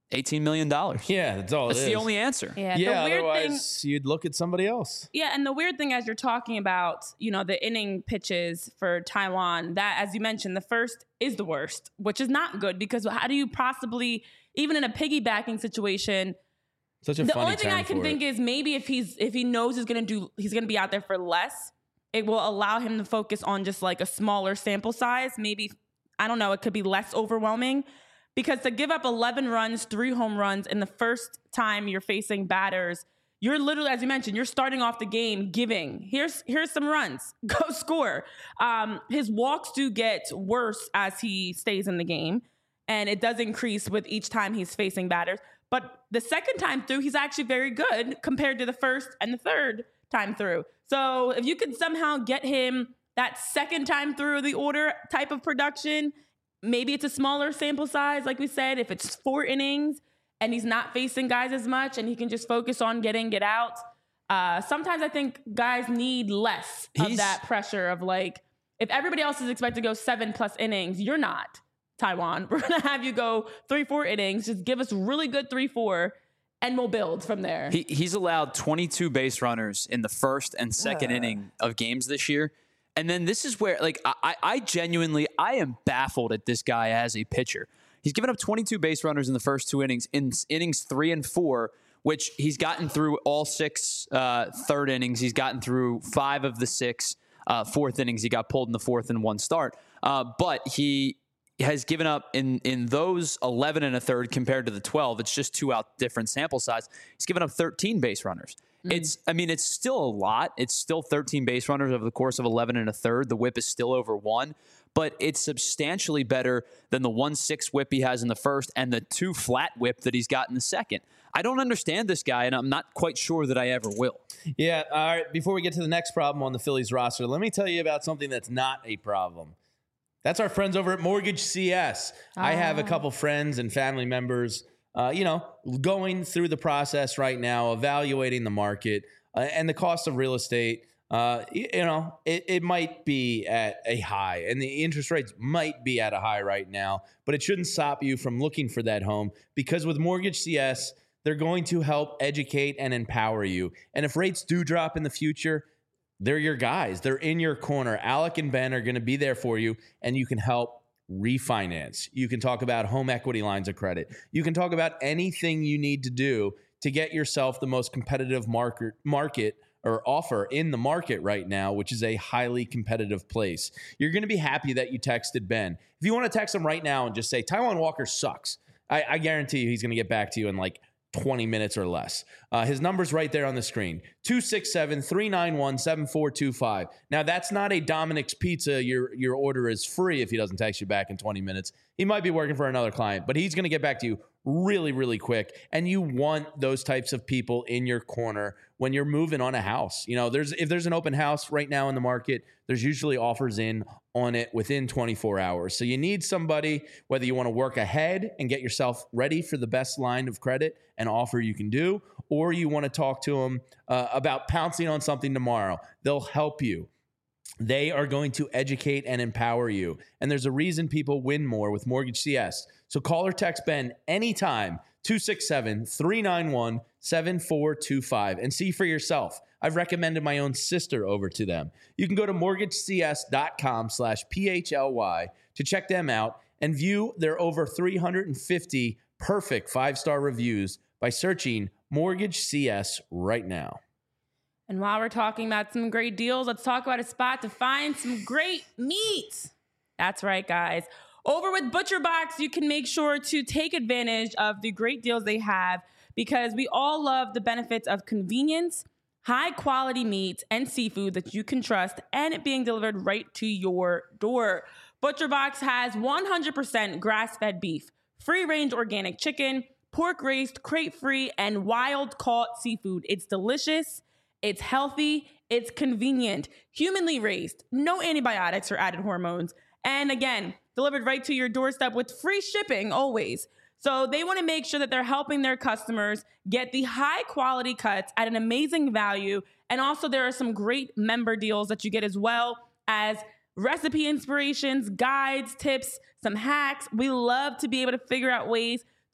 eighteen million dollars. Yeah, that's all That's it is. the only answer. Yeah, Yeah, the weird otherwise thing, you'd look at somebody else. yeah, and the weird thing as you're talking about, you know, the inning pitches for Taiwan, that, as you mentioned, the first is the worst, which is not good because how do you possibly, even in a piggybacking situation, Such a the funny only thing term I can for think it. is maybe if he's if he knows he's gonna do he's gonna be out there for less, it will allow him to focus on just like a smaller sample size. Maybe, I don't know, it could be less overwhelming. Because to give up eleven runs, three home runs in the first time you're facing batters, you're literally, as you mentioned, you're starting off the game giving. Here's here's some runs. Go score. Um, his walks do get worse as he stays in the game, and it does increase with each time he's facing batters. But the second time through, he's actually very good compared to the first and the third time through. So if you could somehow get him that second time through the order type of production, maybe it's a smaller sample size, like we said, if it's four innings and he's not facing guys as much and he can just focus on getting get out. Uh, sometimes I think guys need less of He's- that pressure of like, if everybody else is expected to go seven plus innings, you're not, Taiwan. We're going to have you go three, four innings. Just give us really good three, four, and we'll build from there. He, he's allowed twenty-two base runners in the first and second Uh. inning of games this year. And then this is where, like, I, I genuinely, I am baffled at this guy as a pitcher. He's given up twenty-two base runners in the first two innings. In innings three and four, which he's gotten through all six uh, third innings. He's gotten through five of the six uh, fourth innings. He got pulled in the fourth in one start. Uh, but he has given up in, in those eleven and a third compared to the twelve. It's just two out different sample size. He's given up thirteen base runners. It's, I mean, it's still a lot. It's still thirteen base runners over the course of eleven and a third. The whip is still over one, but it's substantially better than the one six whip he has in the first and the two flat whip that he's got in the second. I don't understand this guy, and I'm not quite sure that I ever will. Yeah, all right. Before we get to the next problem on the Phillies roster, let me tell you about something that's not a problem. That's our friends over at Mortgage C S. I have a couple friends and family members Uh, you know, going through the process right now, evaluating the market uh, and the cost of real estate. Uh, you, you know, it, it might be at a high and the interest rates might be at a high right now, but it shouldn't stop you from looking for that home because with Mortgage C S, they're going to help educate and empower you. And if rates do drop in the future, they're your guys. They're in your corner. Alec and Ben are going to be there for you, and you can help refinance. You can talk about home equity lines of credit. You can talk about anything you need to do to get yourself the most competitive market market or offer in the market right now, which is a highly competitive place. You're going to be happy that you texted Ben. If you want to text him right now and just say, Taijuan Walker sucks, I, I guarantee you he's going to get back to you in like twenty minutes or less. Uh, his number's right there on the screen, two six seven, three nine one, seven four two five. Now, that's not a Dominic's Pizza. Your, your order is free if he doesn't text you back in twenty minutes. He might be working for another client, but he's going to get back to you really, really quick. And you want those types of people in your corner when you're moving on a house. You know, there's if there's an open house right now in the market, there's usually offers in on it within twenty-four hours. So you need somebody, whether you want to work ahead and get yourself ready for the best line of credit and offer you can do, or you want to talk to them uh, about pouncing on something tomorrow. They'll help you. They are going to educate and empower you. And there's a reason people win more with Mortgage C S. So call or text Ben anytime, two six seven, three nine one, seven four two five, and see for yourself. I've recommended my own sister over to them. You can go to mortgagecs.com slash PHLY to check them out and view their over three hundred fifty perfect five-star reviews by searching Mortgage C S right now. And while we're talking about some great deals, let's talk about a spot to find some great meat. That's right, guys. Over with ButcherBox, you can make sure to take advantage of the great deals they have because we all love the benefits of convenience, high quality meat and seafood that you can trust, and it being delivered right to your door. ButcherBox has one hundred percent grass-fed beef, free-range organic chicken, pork-raised, crate-free, and wild-caught seafood. It's delicious. It's healthy, it's convenient, humanly raised, no antibiotics or added hormones, and again, delivered right to your doorstep with free shipping always. So they want to make sure that they're helping their customers get the high quality cuts at an amazing value. And also there are some great member deals that you get as well as recipe inspirations, guides, tips, some hacks. We love to be able to figure out ways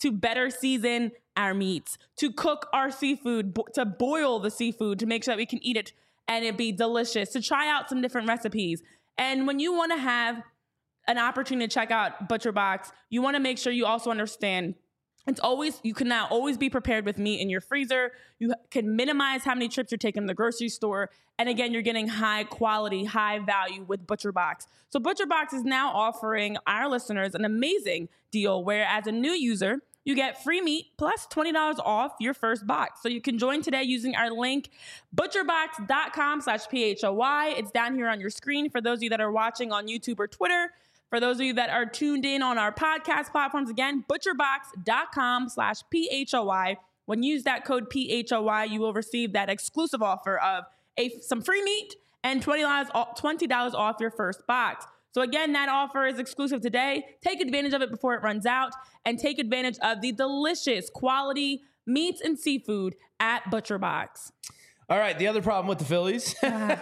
to better season our meats, to cook our seafood, bo- to boil the seafood to make sure that we can eat it and it be delicious, to try out some different recipes. And when you want to have an opportunity to check out ButcherBox, you want to make sure you also understand it's always, you can now always be prepared with meat in your freezer. You can minimize how many trips you're taking to the grocery store. And again, you're getting high quality, high value with ButcherBox. So ButcherBox is now offering our listeners an amazing deal where as a new user, you get free meat plus twenty dollars off your first box. So you can join today using our link, butcherbox.com slash P-H-O-Y. It's down here on your screen for those of you that are watching on YouTube or Twitter. For those of you that are tuned in on our podcast platforms, again, butcherbox.com slash P-H-O-Y. When you use that code P H O Y, you will receive that exclusive offer of a some free meat and twenty dollars, twenty dollars off your first box. So again, that offer is exclusive today. Take advantage of it before it runs out and take advantage of the delicious quality meats and seafood at ButcherBox. All right, the other problem with the Phillies.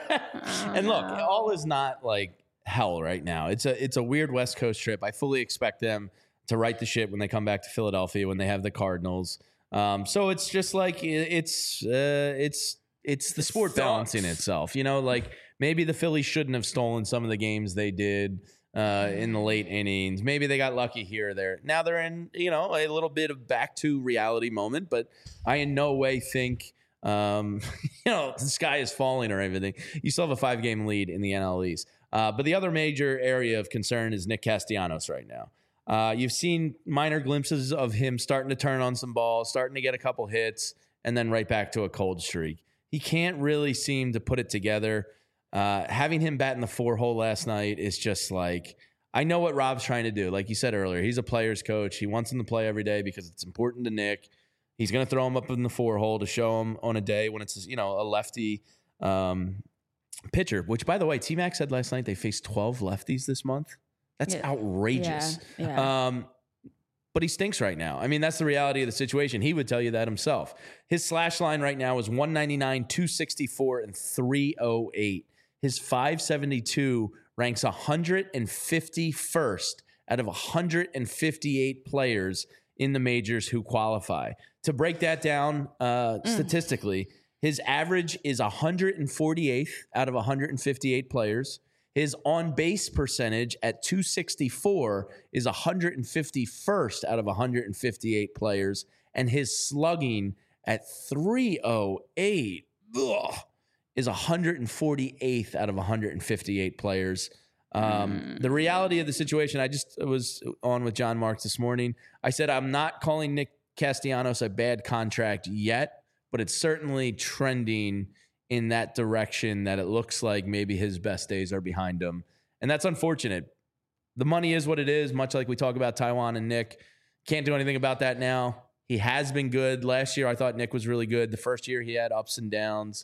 And look, all is not like hell right now. It's a it's a weird West Coast trip. I fully expect them to right the ship when they come back to Philadelphia when they have the Cardinals. Um, so it's just like it's uh, it's it's the sport balancing itself. You know, like maybe the Phillies shouldn't have stolen some of the games they did uh, in the late innings. Maybe they got lucky here or there. Now they're in, you know, a little bit of back to reality moment. But I in no way think um, you know the sky is falling or everything. You still have a five game lead in the N L East. Uh, but the other major area of concern is Nick Castellanos right now. Uh, you've seen minor glimpses of him starting to turn on some balls, starting to get a couple hits, and then right back to a cold streak. He can't really seem to put it together. Uh, having him bat in the four hole last night is just like, I know what Rob's trying to do. Like you said earlier, he's a player's coach. He wants him to play every day because it's important to Nick. He's going to throw him up in the four hole to show him on a day when it's, you know, a lefty um, pitcher, which, by the way, T-Mac said last night they faced twelve lefties this month. That's yeah. outrageous. Yeah. Yeah. Um, but he stinks right now. I mean, that's the reality of the situation. He would tell you that himself. His slash line right now is one ninety-nine, two sixty-four, and three oh eight. His five seventy-two ranks one hundred fifty-first out of one hundred fifty-eight players in the majors who qualify. To break that down uh, mm. statistically, his average is one hundred forty-eighth out of one hundred fifty-eight players. His on-base percentage at two sixty-four is one hundred fifty-first out of one hundred fifty-eight players. And his slugging at three oh eight ugh, is one hundred forty-eighth out of one hundred fifty-eight players. Um, mm. The reality of the situation, I just was on with John Marks this morning. I said, I'm not calling Nick Castellanos a bad contract yet, but it's certainly trending in that direction that it looks like maybe his best days are behind him. And that's unfortunate. The money is what it is, much like we talk about Taijuan and Nick. Can't do anything about that now. He has been good. Last year, I thought Nick was really good. The first year, he had ups and downs.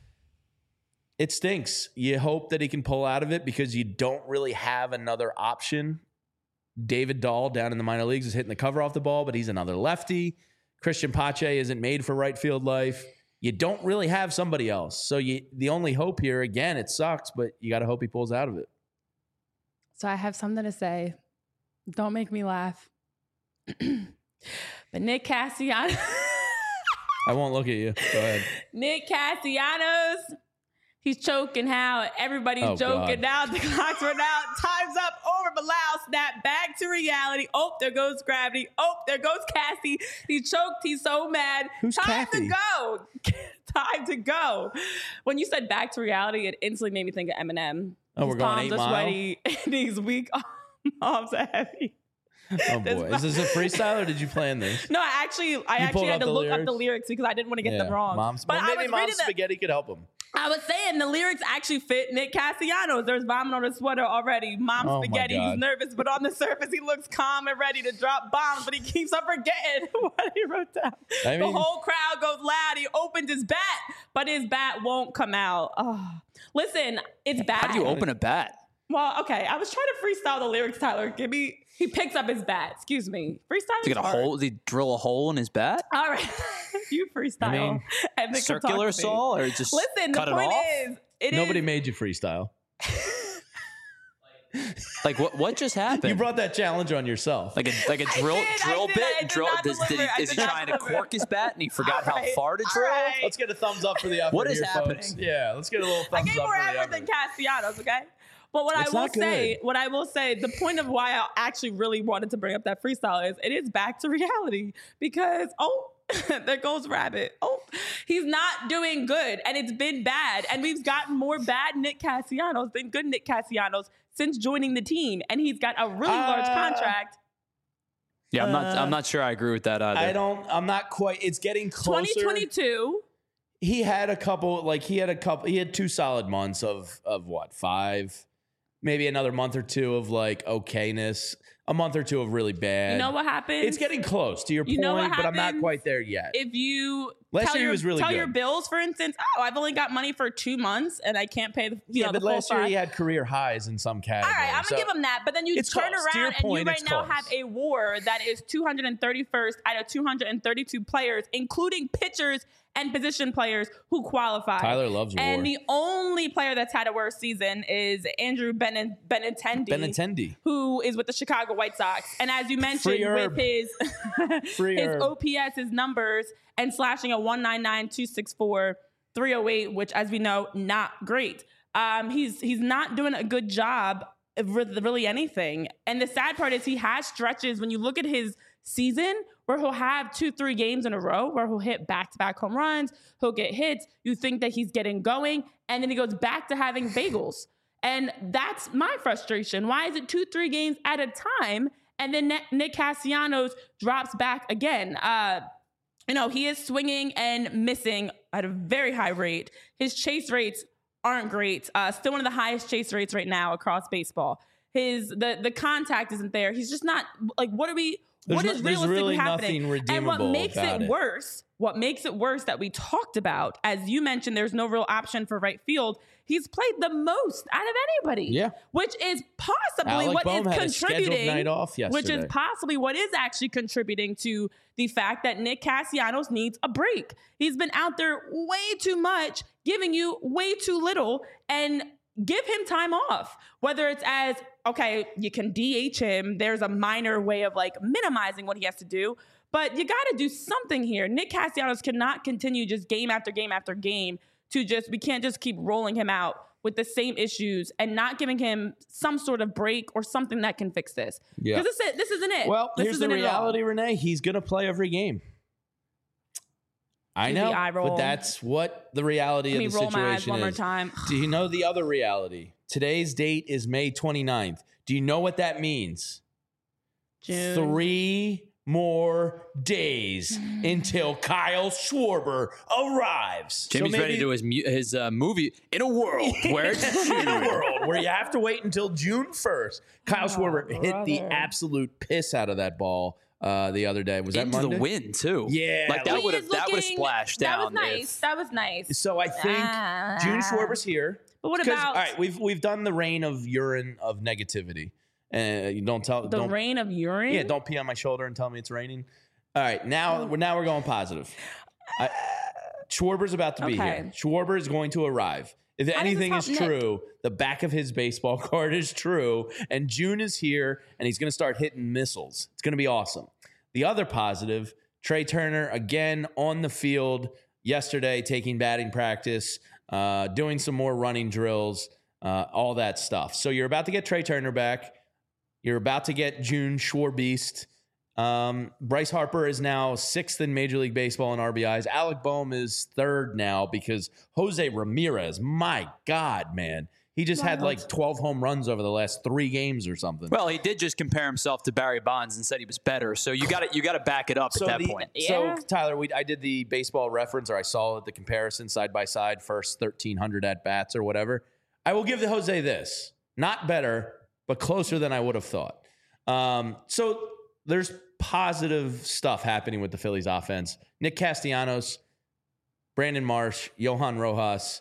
It stinks. You hope that he can pull out of it because you don't really have another option. David Dahl down in the minor leagues is hitting the cover off the ball, but he's another lefty. Christian Pache isn't made for right field life. You don't really have somebody else. So you, the only hope here, again, it sucks, but you got to hope he pulls out of it. So I have something to say. Don't make me laugh. But Nick Castellanos. I won't look at you. Go ahead. Nick Castellanos. He's choking how everybody's oh, joking God. Now. The clock's run out. Time's up. Over. Bilal. Snap back to reality. Oh, there goes gravity. Oh, there goes Cassie. He's choked. He's so mad. Who's Time Kathy? to go. Time to go. When you said back to reality, it instantly made me think of Eminem. Oh, His we're going eight palms are mile? sweaty and he's weak. Arms are heavy. Oh boy, is this a freestyle or did you plan this? No, I actually, I You actually had to look lyrics? up the lyrics because I didn't want to get Yeah. them wrong. Mom's, but well, I maybe was Mom's reading the, spaghetti could help him. I was saying the lyrics actually fit Nick Castellanos. There's vomit on his sweater already. Mom's Oh, my spaghetti. God. He's nervous, but on the surface, he looks calm and ready to drop bombs, but he keeps on forgetting what he wrote down. I mean- the whole crowd goes loud. He opens his bat, but his bat won't come out. Oh. Listen, it's bad. How do you open a bat? Well, okay. I was trying to freestyle the lyrics, Tyler. Give me. He picks up his bat. Excuse me. Freestyle. Does he get a hole? Does he drill a hole in his bat? All right. You freestyle. I mean, and then come talk Circular to me. saw or just Listen, cut the it point off? is, it Nobody is, made you freestyle. Like what? What just happened? You brought that challenge on yourself. like a like a drill did, I drill did, bit. I did drill. not Does, did he, deliver, I is he did not trying to deliver. cork his bat and he forgot All how right, far to all drill? right. Let's get a thumbs up for the effort What is here, happening? folks. Yeah, let's get a little thumbs I gave up more for the effort than Castellanos, okay? But what It's I will not say, good. what I will say, the point of why I actually really wanted to bring up that freestyle is it is back to reality because, oh, there goes Rabbit. Oh, he's not doing good and it's been bad. And we've gotten more bad Nick Castellanos than good Nick Castellanos since joining the team. And he's got a really Uh, large contract. Yeah, I'm not. Uh, I'm not sure I agree with that either. I don't. I'm not quite. It's getting closer. twenty twenty-two. He had a couple. Like he had a couple. He had two solid months of of what five, maybe another month or two of like okayness. A month or two of really bad. You know what happens? It's getting close to your You point, know what but I'm not happens? quite there yet. If you Last tell year he your, was really tell good. your bills, for instance, oh, I've only got money for two months and I can't pay the, you yeah, know, but the full last year five. he had career highs in some All categories. right, I'm so- gonna give him that, but then you It's turn close. To your around and point, you right it's now close. have a war that is two hundred thirty-first out of two hundred thirty-two players, including pitchers and position players who qualify. Tyler loves war. And the only player that's had a worse season is Andrew Ben- Benintendi, Benintendi. who is with the Chicago White Sox. And as you mentioned, Free herb. with his Free his herb. O P S, his numbers, and slashing a one ninety-nine, two sixty-four, three oh eight, which, as we know, not great. Um, he's he's not doing a good job of re- really anything. And the sad part is he has stretches when you look at his season where he'll have two, three games in a row where he'll hit back-to-back home runs, he'll get hits, you think that he's getting going, and then he goes back to having bagels. And that's my frustration. Why is it two, three games at a time, and then Nick Castellanos drops back again? Uh, you know, he is swinging and missing at a very high rate. His chase rates aren't great. Uh, still one of the highest chase rates right now across baseball. His the the contact isn't there. He's just not like what are we There's what no- is there's realistically really happening? nothing And what redeemable makes about it it. worse, what makes it worse that we talked about, as you mentioned, there's no real option for right field. He's played the most out of anybody. Yeah. Which is possibly Alec what Boehm is had a scheduled contributing. night off Which is yesterday. possibly what is actually contributing to the fact that Nick Castellanos needs a break. He's been out there way too much, giving you way too little, and give him time off. Whether it's as, okay, you can D H him, there's a minor way of like minimizing what he has to do, but you got to do something here. Nick Castellanos cannot continue just game after game after game to just, we can't just keep rolling him out with the same issues and not giving him some sort of break or something that can fix this. Yeah. Because this, this isn't it. Well, this here's the isn't it at all. reality, Renee. He's going to play every game. I Do the know, eye roll. but that's what the reality Let me of the roll my eyes situation one more is. time. Do you know the other reality? Today's date is May twenty-ninth. Do you know what that means? June. Three more days until Kyle Schwarber arrives. So Jimmy's ready maybe- to do his mu- his uh, movie in a world where it's in a world where you have to wait until June first. Kyle Oh, Schwarber hit the brother. absolute piss out of that ball uh, the other day. Was that into Monday? the wind too. Yeah, like that like- would He have is that would have looking- splashed That down. was nice. if- That was nice. So I think Ah. June Schwarber's here. But what 'Cause, about all right? We've we've done the reign of urine of negativity, and uh, you don't tell the don't, rain of urine? Yeah, don't pee on my shoulder and tell me it's raining. All right, now we're now we're going positive. I, Schwarber's about to be Okay. here. Schwarber is going to arrive. If does anything this is help Nick? true, the back of his baseball card is true, and June is here, and he's going to start hitting missiles. It's going to be awesome. The other positive, Trey Turner again on the field yesterday, taking batting practice, uh, doing some more running drills, uh, all that stuff. So you're about to get Trey Turner back. You're about to get June Schwarbeast. Um, Bryce Harper is now sixth in Major League Baseball in R B Is. Alec Boehm is third now because Jose Ramirez, my God, man. He just had like twelve home runs over the last three games or something. Well, he did just compare himself to Barry Bonds and said he was better. So you got to you got to back it up so at that the- point. Yeah. So Tyler, we I did the baseball reference, or I saw the comparison side by side, first thirteen hundred at bats or whatever. I will give the Jose this, not better, but closer than I would have thought. Um, so there's positive stuff happening with the Phillies offense. Nick Castellanos, Brandon Marsh, Johan Rojas,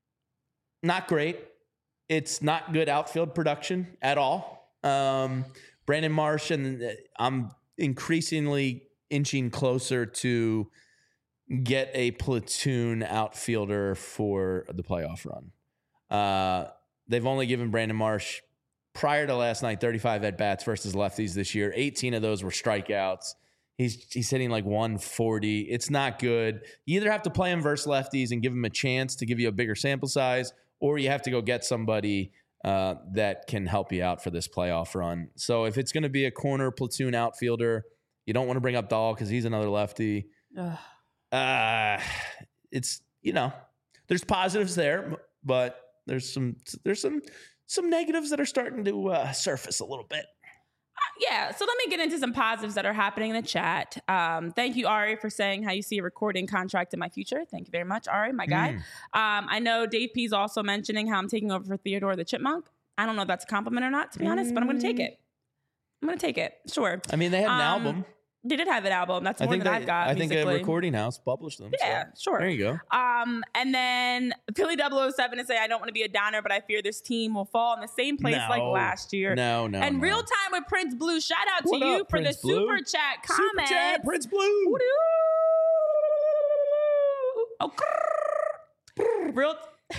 not great. It's not good outfield production at all. Um, Brandon Marsh, and uh, I'm increasingly inching closer to get a platoon outfielder for the playoff run. Uh, they've only given Brandon Marsh prior to last night, thirty-five at-bats versus lefties this year. eighteen of those were strikeouts. He's he's hitting like one forty. It's not good. You either have to play him versus lefties and give him a chance to give you a bigger sample size, or you have to go get somebody uh, that can help you out for this playoff run. So if it's going to be a corner platoon outfielder, you don't want to bring up Dahl because he's another lefty. Ugh. Uh, it's, you know, there's positives there, but there's some there's some some negatives that are starting to uh, surface a little bit. Yeah, so let me get into some positives that are happening in the chat. Um, thank you, Ari, for saying how you see a recording contract in my future. Thank you very much, Ari, my guy. Mm. Um, I know Dave P's also mentioning how I'm taking over for Theodore the Chipmunk. I don't know if that's a compliment or not, to be honest, mm. but I'm going to take it. I'm going to take it. Sure. I mean, they had an um, album. They did have an album. That's more I think than they, I've got. I think musically. a recording house published them. Yeah, so. sure. There you go. Um, and then Philly double oh seven to say, I don't want to be a downer, but I fear this team will fall in the same place no. like last year. No, no. And no. real time with Prince Blue. Shout out what to you up, for Prince the Blue? super chat comment. Super chat, Prince Blue. Oh, grrr. Real. Do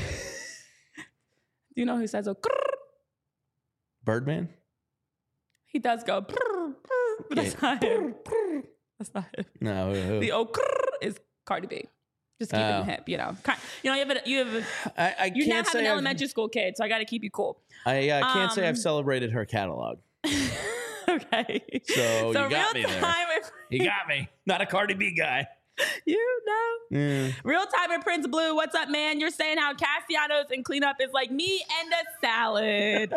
you know who says oh? Grrr? Birdman. He does go, brr, brr, but that's not him. That's not him. No. Who? The oh is Cardi B. Just keep Oh. it hip, you know. You know, you have a, you have a, I, I you now can't have say an I've- elementary school kid, so I got to keep you cool. I uh, can't say Um, I've celebrated her catalog. Okay. So, So you got me real there. time with You got me. Not a Cardi B guy. you know. Mm. Real time with Prince Blue. What's up, man? You're saying how Castellanos and cleanup is like me and a salad.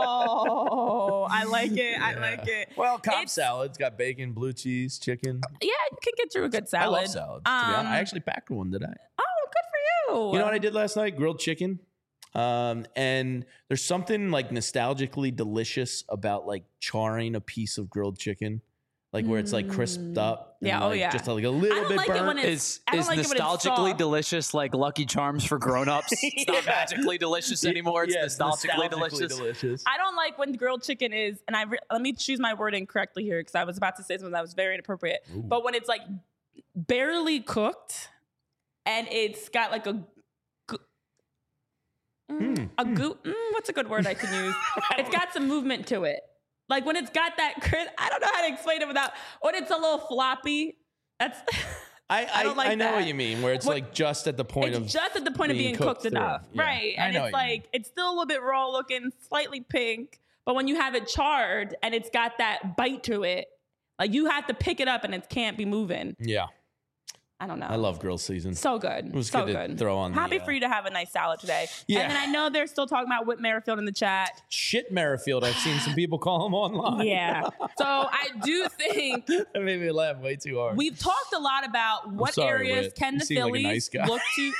Oh, I like it. I like it. Well, Cobb It's- salad's got bacon, blue cheese, chicken. Yeah, you can get through a good I salad. love salads. to be honest. Um, I actually packed one today. Oh, good for you. You know what I did last night? Grilled chicken. Um, and there's something like nostalgically delicious about like charring a piece of grilled chicken, like where it's like crisped up. and, Yeah, oh, like, yeah. just like a I little don't bit like it burnt. when it's- Is I don't is like it when it's nostalgically soft. delicious like Lucky Charms for grown-ups? It's not Yeah. magically delicious anymore. It's Yeah, nostalgically, nostalgically delicious. delicious. I don't like when grilled chicken is, and I re- let me choose my wording correctly here because I was about to say something that was very inappropriate. Ooh. But when it's like barely cooked and it's got like a go- mm, Hmm. a goo. Mm, what's a good word I can use? It's got some movement to it. Like when it's got that crisp. I don't know how to explain it without. When it's a little floppy. That's. I, I, I don't like I know that. what you mean, where it's What- like just at the point It's of just at the point of being being cooked cooked, through. enough, Yeah. right? I And know it's what you like it's still a little bit raw looking, slightly pink, but when you have it charred and it's got that bite to it, like you have to pick it up and it can't be moving. yeah. I don't know. I love grill season. So good. It was so good to good. throw on the, Happy uh, for you to have a nice salad today. Yeah. And then I know they're still talking about Whit Merrifield in the chat. Shit Merrifield. I've seen some people call him online. Yeah. So I do think That made me laugh way too hard. we've talked a lot about what sorry, areas Whit. can You the seem like a Phillies nice guy. look to.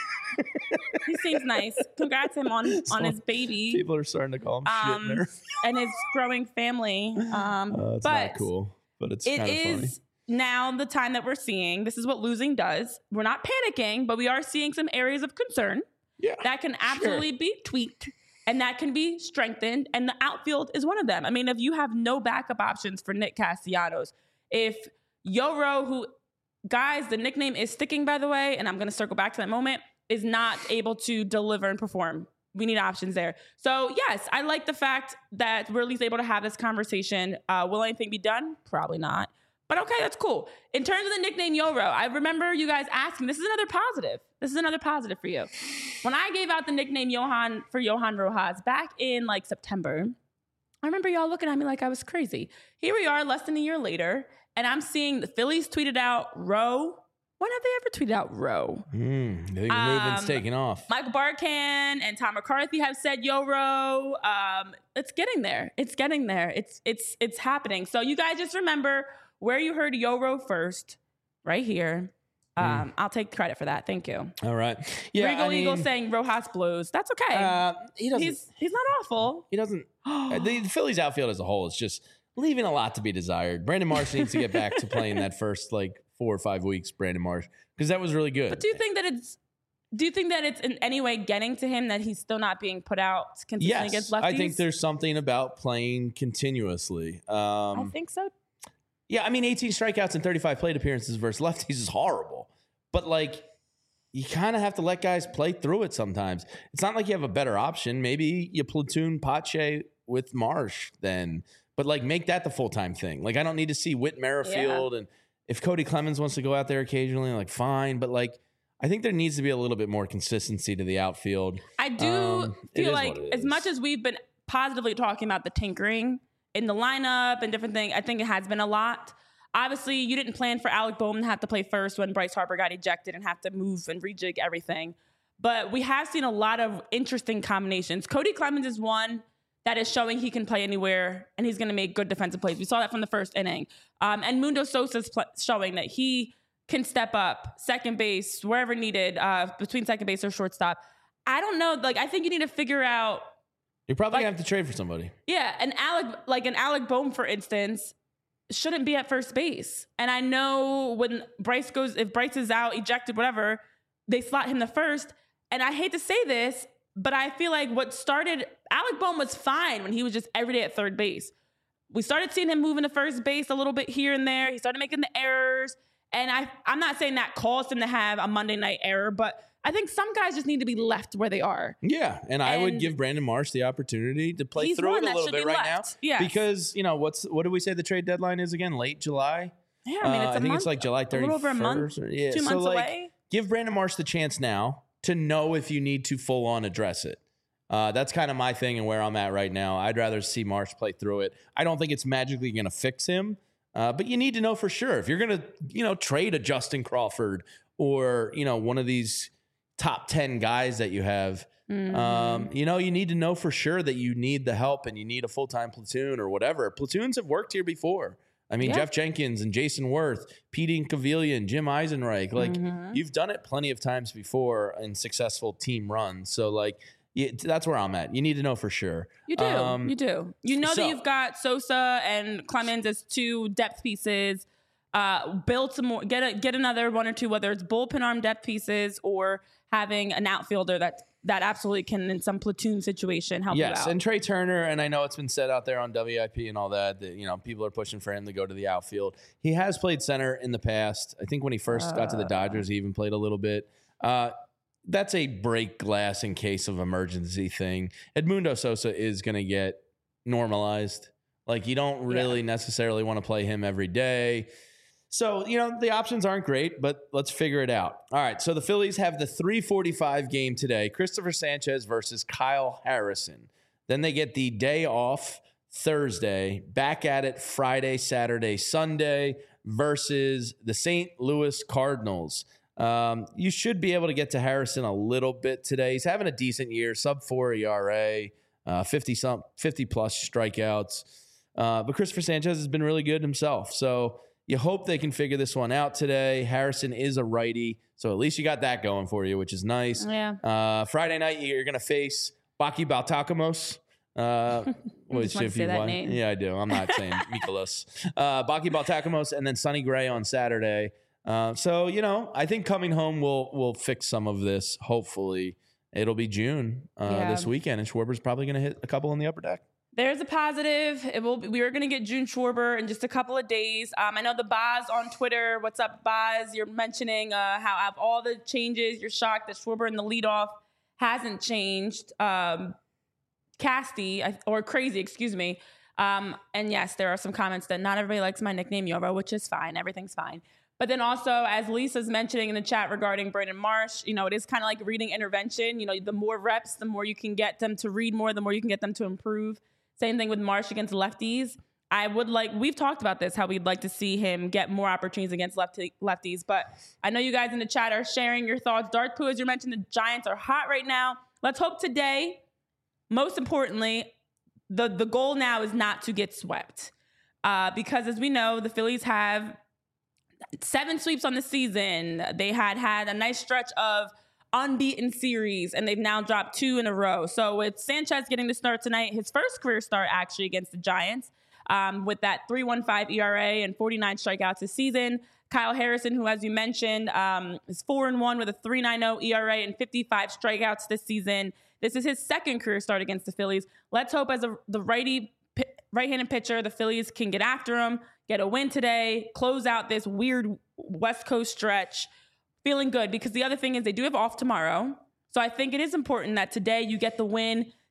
He seems nice. Congrats him on on his baby. People are starting to call him Um, shit Merrifield. and his growing family. Um, Uh, it's but not cool, but it's it kind of funny. is now the time that we're seeing. This is what losing does. We're not panicking, but we are seeing some areas of concern Yeah. that can absolutely be tweaked and that can be strengthened. And the outfield is one of them. I mean, if you have no backup options for Nick Castellanos, if Yoro, who, guys, the nickname is sticking, by the way, and I'm going to circle back to that moment, is not able to deliver and perform. We need options there. So, yes, I like the fact that we're at least able to have this conversation. Uh, will anything be done? Probably not. But okay, that's cool. In terms of the nickname Yoro, I remember you guys asking, this is another positive. This is another positive for you. When I gave out the nickname Johan for Johan Rojas back in like September, I remember y'all looking at me like I was crazy. Here we are less than a year later, and I'm seeing the Phillies tweeted out Row. When have they ever tweeted out Row? Mm, I think the movement's Um, taking off. Michael Barkan and Tom McCarthy have said Yoro. Um, it's getting there. It's getting there. It's it's it's happening. So you guys just remember where you heard Yoro first, right here. Um, I'll take credit for that. Thank you. All right. Yeah. Regal I mean, Eagle saying Rojas Blues. That's okay. uh, he doesn't. he's he's not awful. he doesn't. uh, the, the Phillies outfield as a whole is just leaving a lot to be desired. Brandon Marsh needs to get back to playing that first like four or five weeks. Brandon Marsh, because that was really good. But do you think that it's do you think that it's in any way getting to him that he's still not being put out consistently yes, against lefties? I think there's something about playing continuously. Um, I think so. Yeah, I mean, eighteen strikeouts and thirty-five plate appearances versus lefties is horrible. But, like, you kind of have to let guys play through it sometimes. It's not like you have a better option. Maybe you platoon Pache with Marsh then. But like make that the full time thing. Like I don't need to see Whit Merrifield, yeah. and if Cody Clemens wants to go out there occasionally, like fine. But like I think there needs to be a little bit more consistency to the outfield. I do um, feel like as much as we've been positively talking about the tinkering in the lineup and different things, I think it has been a lot. Obviously, you didn't plan for Alec Bohm to have to play first when Bryce Harper got ejected and have to move and rejig everything. But we have seen a lot of interesting combinations. Cody Clemens is one that is showing he can play anywhere and he's going to make good defensive plays. We saw that from the first inning. Um, and Mundo Sosa's pl- showing that he can step up second base, wherever needed, uh, between second base or shortstop. I don't know. Like, I think you need to figure out. You're probably like, going to have to trade for somebody. Yeah. And Alec, like an Alec Bohm, for instance, shouldn't be at first base. And I know when Bryce goes, if Bryce is out, ejected, whatever, they slot him to first. And I hate to say this, but I feel like what started, Alec Bohm was fine when he was just every day at third base. We started seeing him moving to first base a little bit here and there. He started making the errors. And I, I'm not saying that caused him to have a Monday night error, but I think some guys just need to be left where they are. Yeah, and, and I would give Brandon Marsh the opportunity to play through it a little bit right left. now. Yes. Because, you know, what's what do we say the trade deadline is again? Late July? Yeah, I mean, it's uh, a I think month, it's like July thirty-first. A little over a month, or, yeah. two so months like, away. Give Brandon Marsh the chance now to know if you need to full on address it. Uh, that's kind of my thing and where I'm at right now. I'd rather see Marsh play through it. I don't think it's magically going to fix him, uh, but you need to know for sure. If you're going to, you know, trade a Justin Crawford or, you know, one of these top ten guys that you have, mm-hmm. um, you know, you need to know for sure that you need the help and you need a full-time platoon or whatever. Platoons have worked here before. I mean, yeah. Jeff Jenkins and Jason Worth, Pete Incaviglia, Jim Eisenreich, like mm-hmm. you've done it plenty of times before in successful team runs. So like, yeah, that's where I'm at. You need to know for sure. You do. Um, you do. You know so, that you've got Sosa and Clemens as two depth pieces. Uh, build some more. Get a, get another one or two, whether it's bullpen arm depth pieces or having an outfielder that that absolutely can, in some platoon situation, help yes, you out. Yes, and Trey Turner, and I know it's been said out there on W I P and all that, that, you know, people are pushing for him to go to the outfield. He has played center in the past. I think when he first uh, got to the Dodgers, he even played a little bit. Uh, that's a break glass in case of emergency thing. Edmundo Sosa is going to get normalized. Like, you don't really yeah. necessarily want to play him every day. So, you know, the options aren't great, but let's figure it out. All right, so the Phillies have the three forty-five game today, Christopher Sanchez versus Kyle Harrison. Then they get the day off Thursday, back at it Friday, Saturday, Sunday versus the Saint Louis Cardinals. Um, you should be able to get to Harrison a little bit today. He's having a decent year, sub four E R A, uh, fifty some, fifty plus strikeouts. Uh, but Christopher Sanchez has been really good himself. So you hope they can figure this one out today. Harrison is a righty, so at least you got that going for you, which is nice. Yeah. Uh, Friday night, you're going to face Baki Baltakamos. Uh, which if you want, name. Yeah, I do. I'm not saying Mikolas. Uh, Baki Baltakamos, and then Sonny Gray on Saturday. Uh, so, you know, I think coming home will will fix some of this. Hopefully, it'll be June uh, yeah. this weekend, and Schwarber's probably going to hit a couple on the upper deck. There's a positive. It will. Be, we are going to get June Schwarber in just a couple of days. Um, I know the Boz on Twitter. What's up, Boz? You're mentioning uh, how out of all the changes, you're shocked that Schwarber in the leadoff hasn't changed. Um, Casty or Crazy, excuse me. Um, and yes, there are some comments that not everybody likes my nickname Yoro, which is fine. Everything's fine. But then also, as Lisa's mentioning in the chat regarding Brandon Marsh, you know, it is kind of like reading intervention. You know, the more reps, the more you can get them to read more, the more you can get them to improve. Same thing with Marsh against lefties. I would like, we've talked about this, how we'd like to see him get more opportunities against lefty, lefties. But I know you guys in the chat are sharing your thoughts. Darth Pooh, as you mentioned, the Giants are hot right now. Let's hope today, most importantly, the, the goal now is not to get swept. Uh, because as we know, the Phillies have seven sweeps on the season. They had had a nice stretch of unbeaten series, and they've now dropped two in a row. So with Sanchez getting the start tonight, his first career start actually against the Giants, um, with that three point one five E R A and forty-nine strikeouts this season. Kyle Harrison, who, as you mentioned, um, is four and one with a three point nine oh E R A and fifty-five strikeouts this season. This is his second career start against the Phillies. Let's hope as a, the righty, right-handed pitcher, the Phillies can get after him, get a win today, close out this weird West Coast stretch. Feeling good, because the other thing is they do have off tomorrow. So I think it is important that today you get the win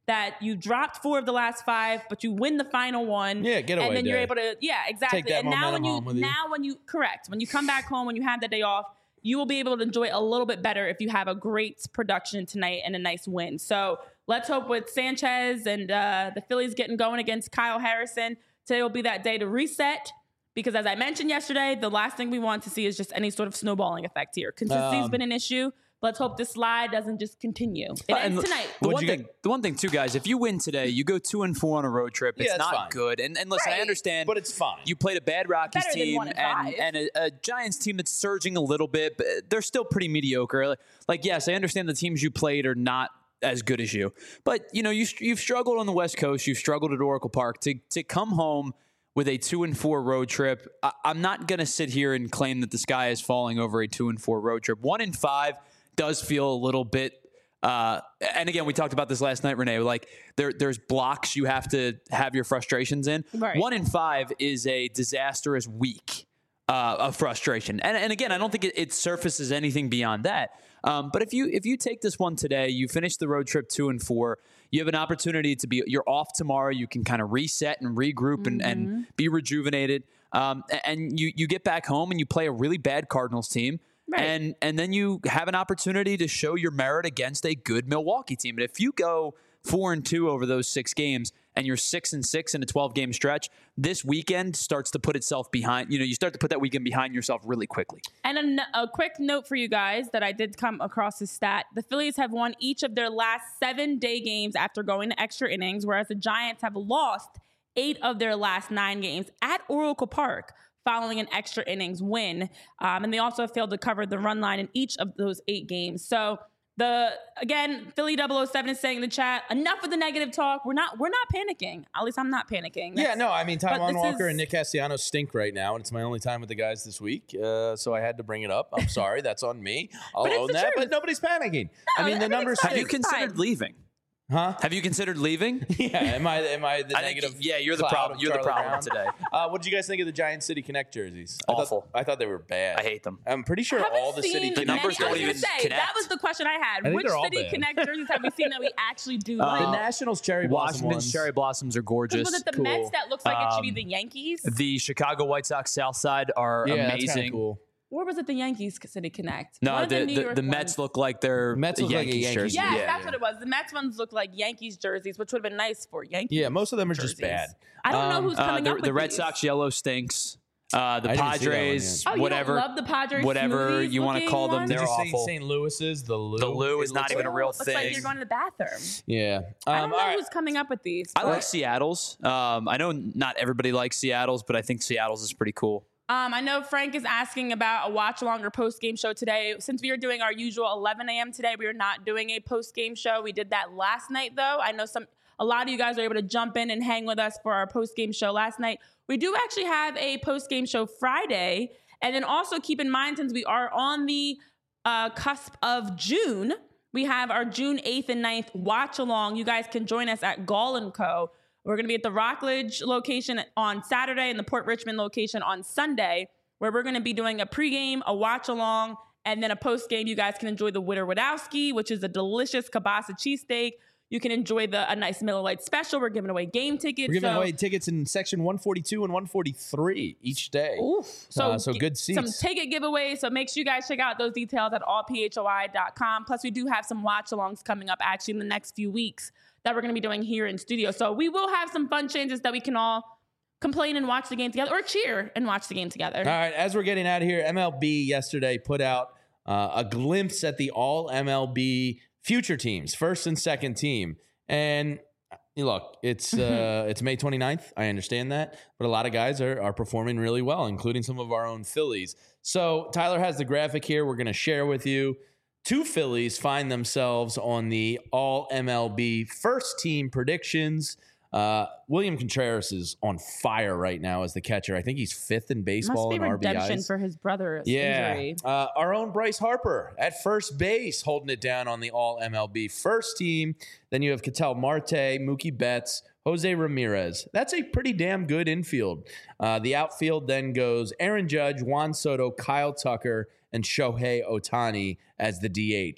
that you dropped four of the last five, but you win the final one. Yeah, getaway And then you're day. able to, yeah, exactly. Take that and now when momentum you, home with you. now when you, correct, when you come back home, when you have that day off, you will be able to enjoy it a little bit better if you have a great production tonight and a nice win. So let's hope with Sanchez and uh, the Phillies getting going against Kyle Harrison, today will be that day to reset. Because as I mentioned yesterday, the last thing we want to see is just any sort of snowballing effect here. Consistency has Um, been an issue. Let's hope this slide doesn't just continue. It Uh, ends and tonight. The What'd one you thing, get? the one thing too, guys. If you win today, you go two and four on a road trip. It's Yeah, that's not fine. good. And, and listen, I Right. understand, But it's fine. You played a bad Rockies Better than team one and and, five. and a, a Giants team that's surging a little bit, but they're still pretty mediocre. Like, like, yes, I understand the teams you played are not as good as you, but you know you you've struggled on the West Coast. You've struggled at Oracle Park to to come home with a two and four road trip. I, I'm not going to sit here and claim that the sky is falling over a two and four road trip. One and five does feel a little bit. Uh, and again, we talked about this last night, Renee. Like there, there's blocks you have to have your frustrations in. Right. One in five is a disastrous week uh, of frustration. And and again, I don't think it, it surfaces anything beyond that. Um, but if you if you take this one today, you finish the road trip two and four. You have an opportunity to be. You're off tomorrow. You can kind of reset and regroup and, and be rejuvenated. Um, and you you get back home and you play a really bad Cardinals team. Right. And and then you have an opportunity to show your merit against a good Milwaukee team. And if you go four and two over those six games and you're six and six in a twelve game stretch, this weekend starts to put itself behind. You know, you start to put that weekend behind yourself really quickly. And a, n- a quick note for you guys that I did come across this stat. The Phillies have won each of their last seven day games after going to extra innings, whereas the Giants have lost eight of their last nine games at Oracle Park following an extra innings win. Um, and they also failed to cover the run line in each of those eight games. So the again, Philly double oh seven is saying in the chat, enough of the negative talk. We're not we're not panicking. At least I'm not panicking. Yeah, That's- no, I mean, but Taijuan this Walker is- and Nick Castellanos stink right now, and it's my only time with the guys this week, uh, so I had to bring it up. I'm sorry, that's on me. I'll But it's own the that, truth. but nobody's panicking. I No, mean, the everything's numbers fine. Have you stink. It's considered fine. leaving? Huh? Have you considered leaving? Yeah, am I am I the I think- negative? yeah, you're the cloud problem. of You're the Charlie problem Brown? today. Uh, what did you guys think of the Giant City Connect jerseys? I Awful. Thought, I thought they were bad. I hate them. I'm pretty sure Haven't all the seen City The many- Connect numbers don't I was even gonna say, connect. that was the question I had. think Which they're all City bad. Connect jerseys have we seen that we actually do Uh, like? The Nationals cherry blossom Washington's ones. cherry blossoms are gorgeous. Was it the cool. Mets that looks like it should be Um, the Yankees? The Chicago White Sox South Side are yeah, that's kinda amazing. cool. Or was it the Yankees City Connect? No, One of the, New the, York the Mets ones. look like they're Mets a look like a Yankees Yankees jersey. Yes, Yeah, that's yeah. what it was. The Mets ones look like Yankees jerseys, which would have been nice for Yankees. Yeah, most of them are just jerseys. bad. I don't Um, know who's Uh, coming the up with the Red these. Sox yellow stinks. Uh, the I didn't see that one Padres, yet. Oh, you whatever, don't love the Padres whatever smoothies you want to looking call them, ones? they're Did you see awful. Saint Louis's? The Lou. The Lou It is not looks even like- a real Looks like thing. you're going to the bathroom. Yeah. I Um, don't know all right. who's coming up with these. I but- like Seattle's. Um, I know not everybody likes Seattle's, but I think Seattle's is pretty cool. Um, I know Frank is asking about a watch along or post game show today. Since we are doing our usual eleven a.m. today, we are not doing a post game show. We did that last night, though. I know some a lot of you guys are able to jump in and hang with us for our post game show last night. We do actually have a post game show Friday, and then also keep in mind since we are on the uh, cusp of June, we have our June eighth and ninth watch along. You guys can join us at Gall and Co. We're going to be at the Rockledge location on Saturday and the Port Richmond location on Sunday, where we're going to be doing a pregame, a watch along, and then a postgame. You guys can enjoy the Witter Wadowski, which is a delicious kielbasa cheesesteak. You can enjoy the a nice Miller Lite special. We're giving away game tickets. We're giving so, away tickets in section one forty-two and one forty-three each day. Oof. So, Uh, so g- good Some seats. ticket giveaways. So make sure you guys check out those details at all p h o i dot com. Plus, we do have some watch alongs coming up actually in the next few weeks that we're going to be doing here in studio. So we will have some fun changes that we can all complain and watch the game together, or cheer and watch the game together. All right, as we're getting out of here, M L B yesterday put out uh, a glimpse at the all M L B future teams, first and second team. And you look, it's uh, it's May twenty-ninth. I understand that, but a lot of guys are, are performing really well, including some of our own Phillies. So Tyler has the graphic here. We're going to share with you. Two Phillies find themselves on the all M L B first team predictions. Uh, William Contreras is on fire right now as the catcher. I think he's fifth in Must baseball be in R B redemption Is. for his brother's Yeah. injury. Uh, our own Bryce Harper at first base holding it down on the all M L B first team. Then you have Ketel Marte, Mookie Betts, Jose Ramirez. That's a pretty damn good infield. Uh, the outfield then goes Aaron Judge, Juan Soto, Kyle Tucker, and Shohei Ohtani as the D H.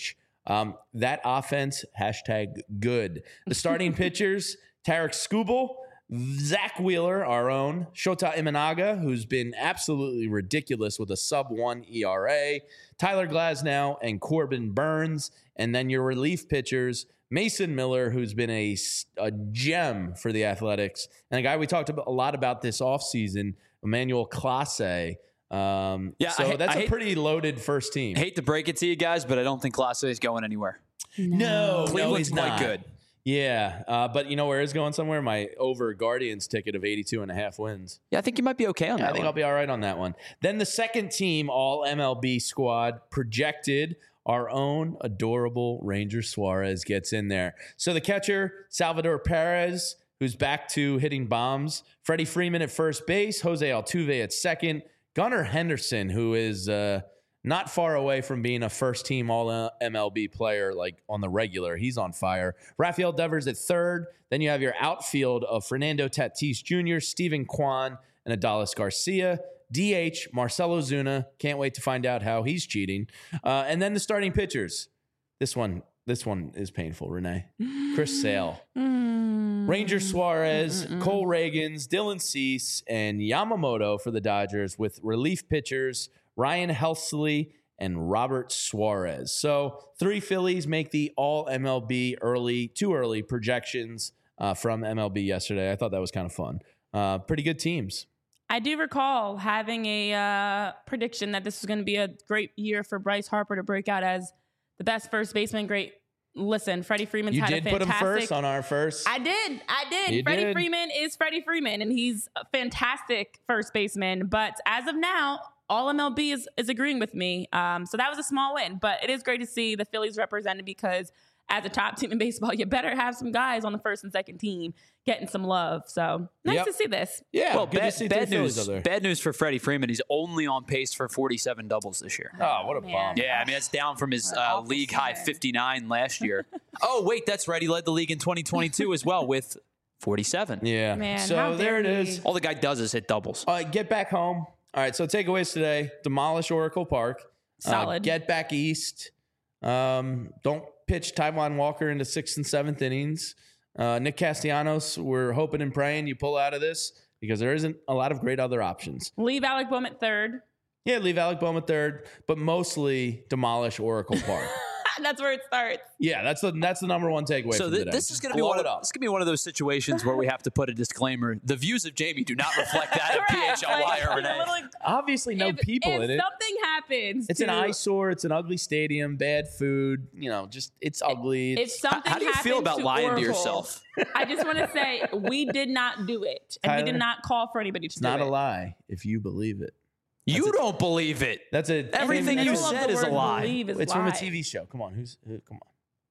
Um, that offense, hashtag good. The starting pitchers, Tarek Skubal, Zach Wheeler, our own, Shota Imanaga, who's been absolutely ridiculous with a sub one E R A, Tyler Glasnow, and Corbin Burns. And then your relief pitchers, Mason Miller, who's been a, a gem for the Athletics, and a guy we talked about, a lot about this offseason, Emmanuel Clase. Um, yeah, so I, that's I a hate, pretty loaded first team. Hate to break it to you guys, but I don't think Clase is going anywhere. No, Cleveland's no, he's quite not. good. Yeah, uh, but you know where is going somewhere? My over Guardians ticket of eighty-two and a half wins. Yeah, I think you might be okay on Yeah, that I think one. I'll be all right on that one. Then the second team, all M L B squad, projected. Our own adorable Ranger Suarez gets in there. So the catcher, Salvador Perez, who's back to hitting bombs. Freddie Freeman at first base. Jose Altuve at second. Gunnar Henderson, who is uh, not far away from being a first-team All-M L B player, like on the regular. He's on fire. Rafael Devers at third. Then you have your outfield of Fernando Tatis Junior, Steven Kwan, and Adolis Garcia. D H, Marcelo Zuna. Can't wait to find out how he's cheating. Uh, and then the starting pitchers. This one, this one is painful, Renee. Chris Sale. Mm. Ranger Suarez, Mm-mm-mm. Cole Reagans, Dylan Cease, and Yamamoto for the Dodgers with relief pitchers Ryan Helsley and Robert Suarez. So three Phillies make the all M L B early, too early projections uh, from M L B yesterday. I thought that was kind of fun. Uh, pretty good teams. I do recall having a uh, prediction that this was going to be a great year for Bryce Harper to break out as the best first baseman. Great. Listen, Freddie Freeman's You had did a put him fantastic... first on our first. I did. I did. You Freddie did. Freeman is Freddie Freeman, and he's a fantastic first baseman. But as of now, all M L B is, is agreeing with me. Um, so that was a small win. But it is great to see the Phillies represented because as a top team in baseball, you better have some guys on the first and second team getting some love. So nice Yep. to see this. Yeah, Well, good bad, to see bad three Phillies news. out there. Bad news for Freddie Freeman. He's only on pace for forty-seven doubles this year. Oh, what a Man. bomb. Yeah, I mean that's down from his What an uh, awful league high season. fifty-nine last year. Oh, wait, that's right. He led the league in twenty twenty-two as well with forty-seven. Yeah. Man, so how there dare it he. is. All the guy does is hit doubles. All right, get back home. All right, so takeaways today: demolish Oracle Park. Uh, Solid. get back east. Um, don't pitch Taijuan Walker into sixth and seventh innings. Uh, Nick Castellanos, we're hoping and praying you pull out of this because there isn't a lot of great other options. Leave Alec Boehm at third. Yeah, leave Alec Boehm at third, but mostly demolish Oracle Park. That's where it starts. Yeah, that's the that's the number one takeaway. So from th- today. this is Just going to be blow one it of up. this is going to be one of those situations where we have to put a disclaimer. The views of Jamie do not reflect that of P H L Y Right, or like, Renee. like, Obviously, no if, people if in it. something happens, It's to, an eyesore. It's an ugly stadium. Bad food. You know, just it's ugly. If It's, How, something how do you feel happens about to lying Oracle, to yourself? I just want to say we did not do it, and we Tyler, did not call for anybody to it's do not it. a lie if you believe it. You don't believe it. That's a Everything In the you middle of said the is a word lie. believe is It's from a lie. T V show. Come on, who's who, come on,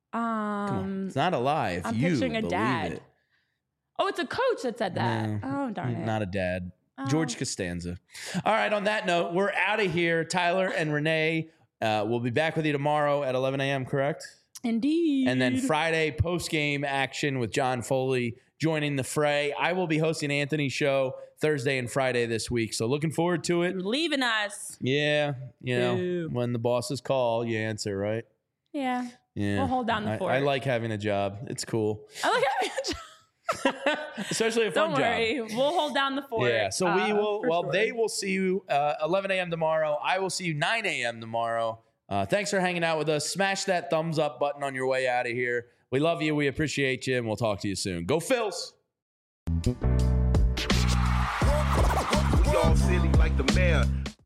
Um, come on. It's not a lie if I'm you picturing a believe dad. it. Oh, it's a coach that said that. No, oh, darn it. Not a dad. Oh. George Costanza. All right. On that note, we're out of here. Tyler and Renee uh, will be back with you tomorrow at eleven a.m. Correct? Indeed. And then Friday post game action with John Foley joining the fray. I will be hosting Anthony's show Thursday and Friday this week. So looking forward to it. You're leaving us. Yeah. You know, Boo. when the bosses call, you answer, right? Yeah. Yeah. We'll hold down the I- fort. I, like having a job. It's cool. I like having a job. Especially a fun Don't worry. job. We'll hold down the fort. Yeah. So we uh, will, for well, sure. they will see you uh, eleven a.m. tomorrow. I will see you nine a.m. tomorrow. Uh, thanks for hanging out with us. Smash that thumbs up button on your way out of here. We love you. We appreciate you. And we'll talk to you soon. Go Phils. We all silly like the mayor.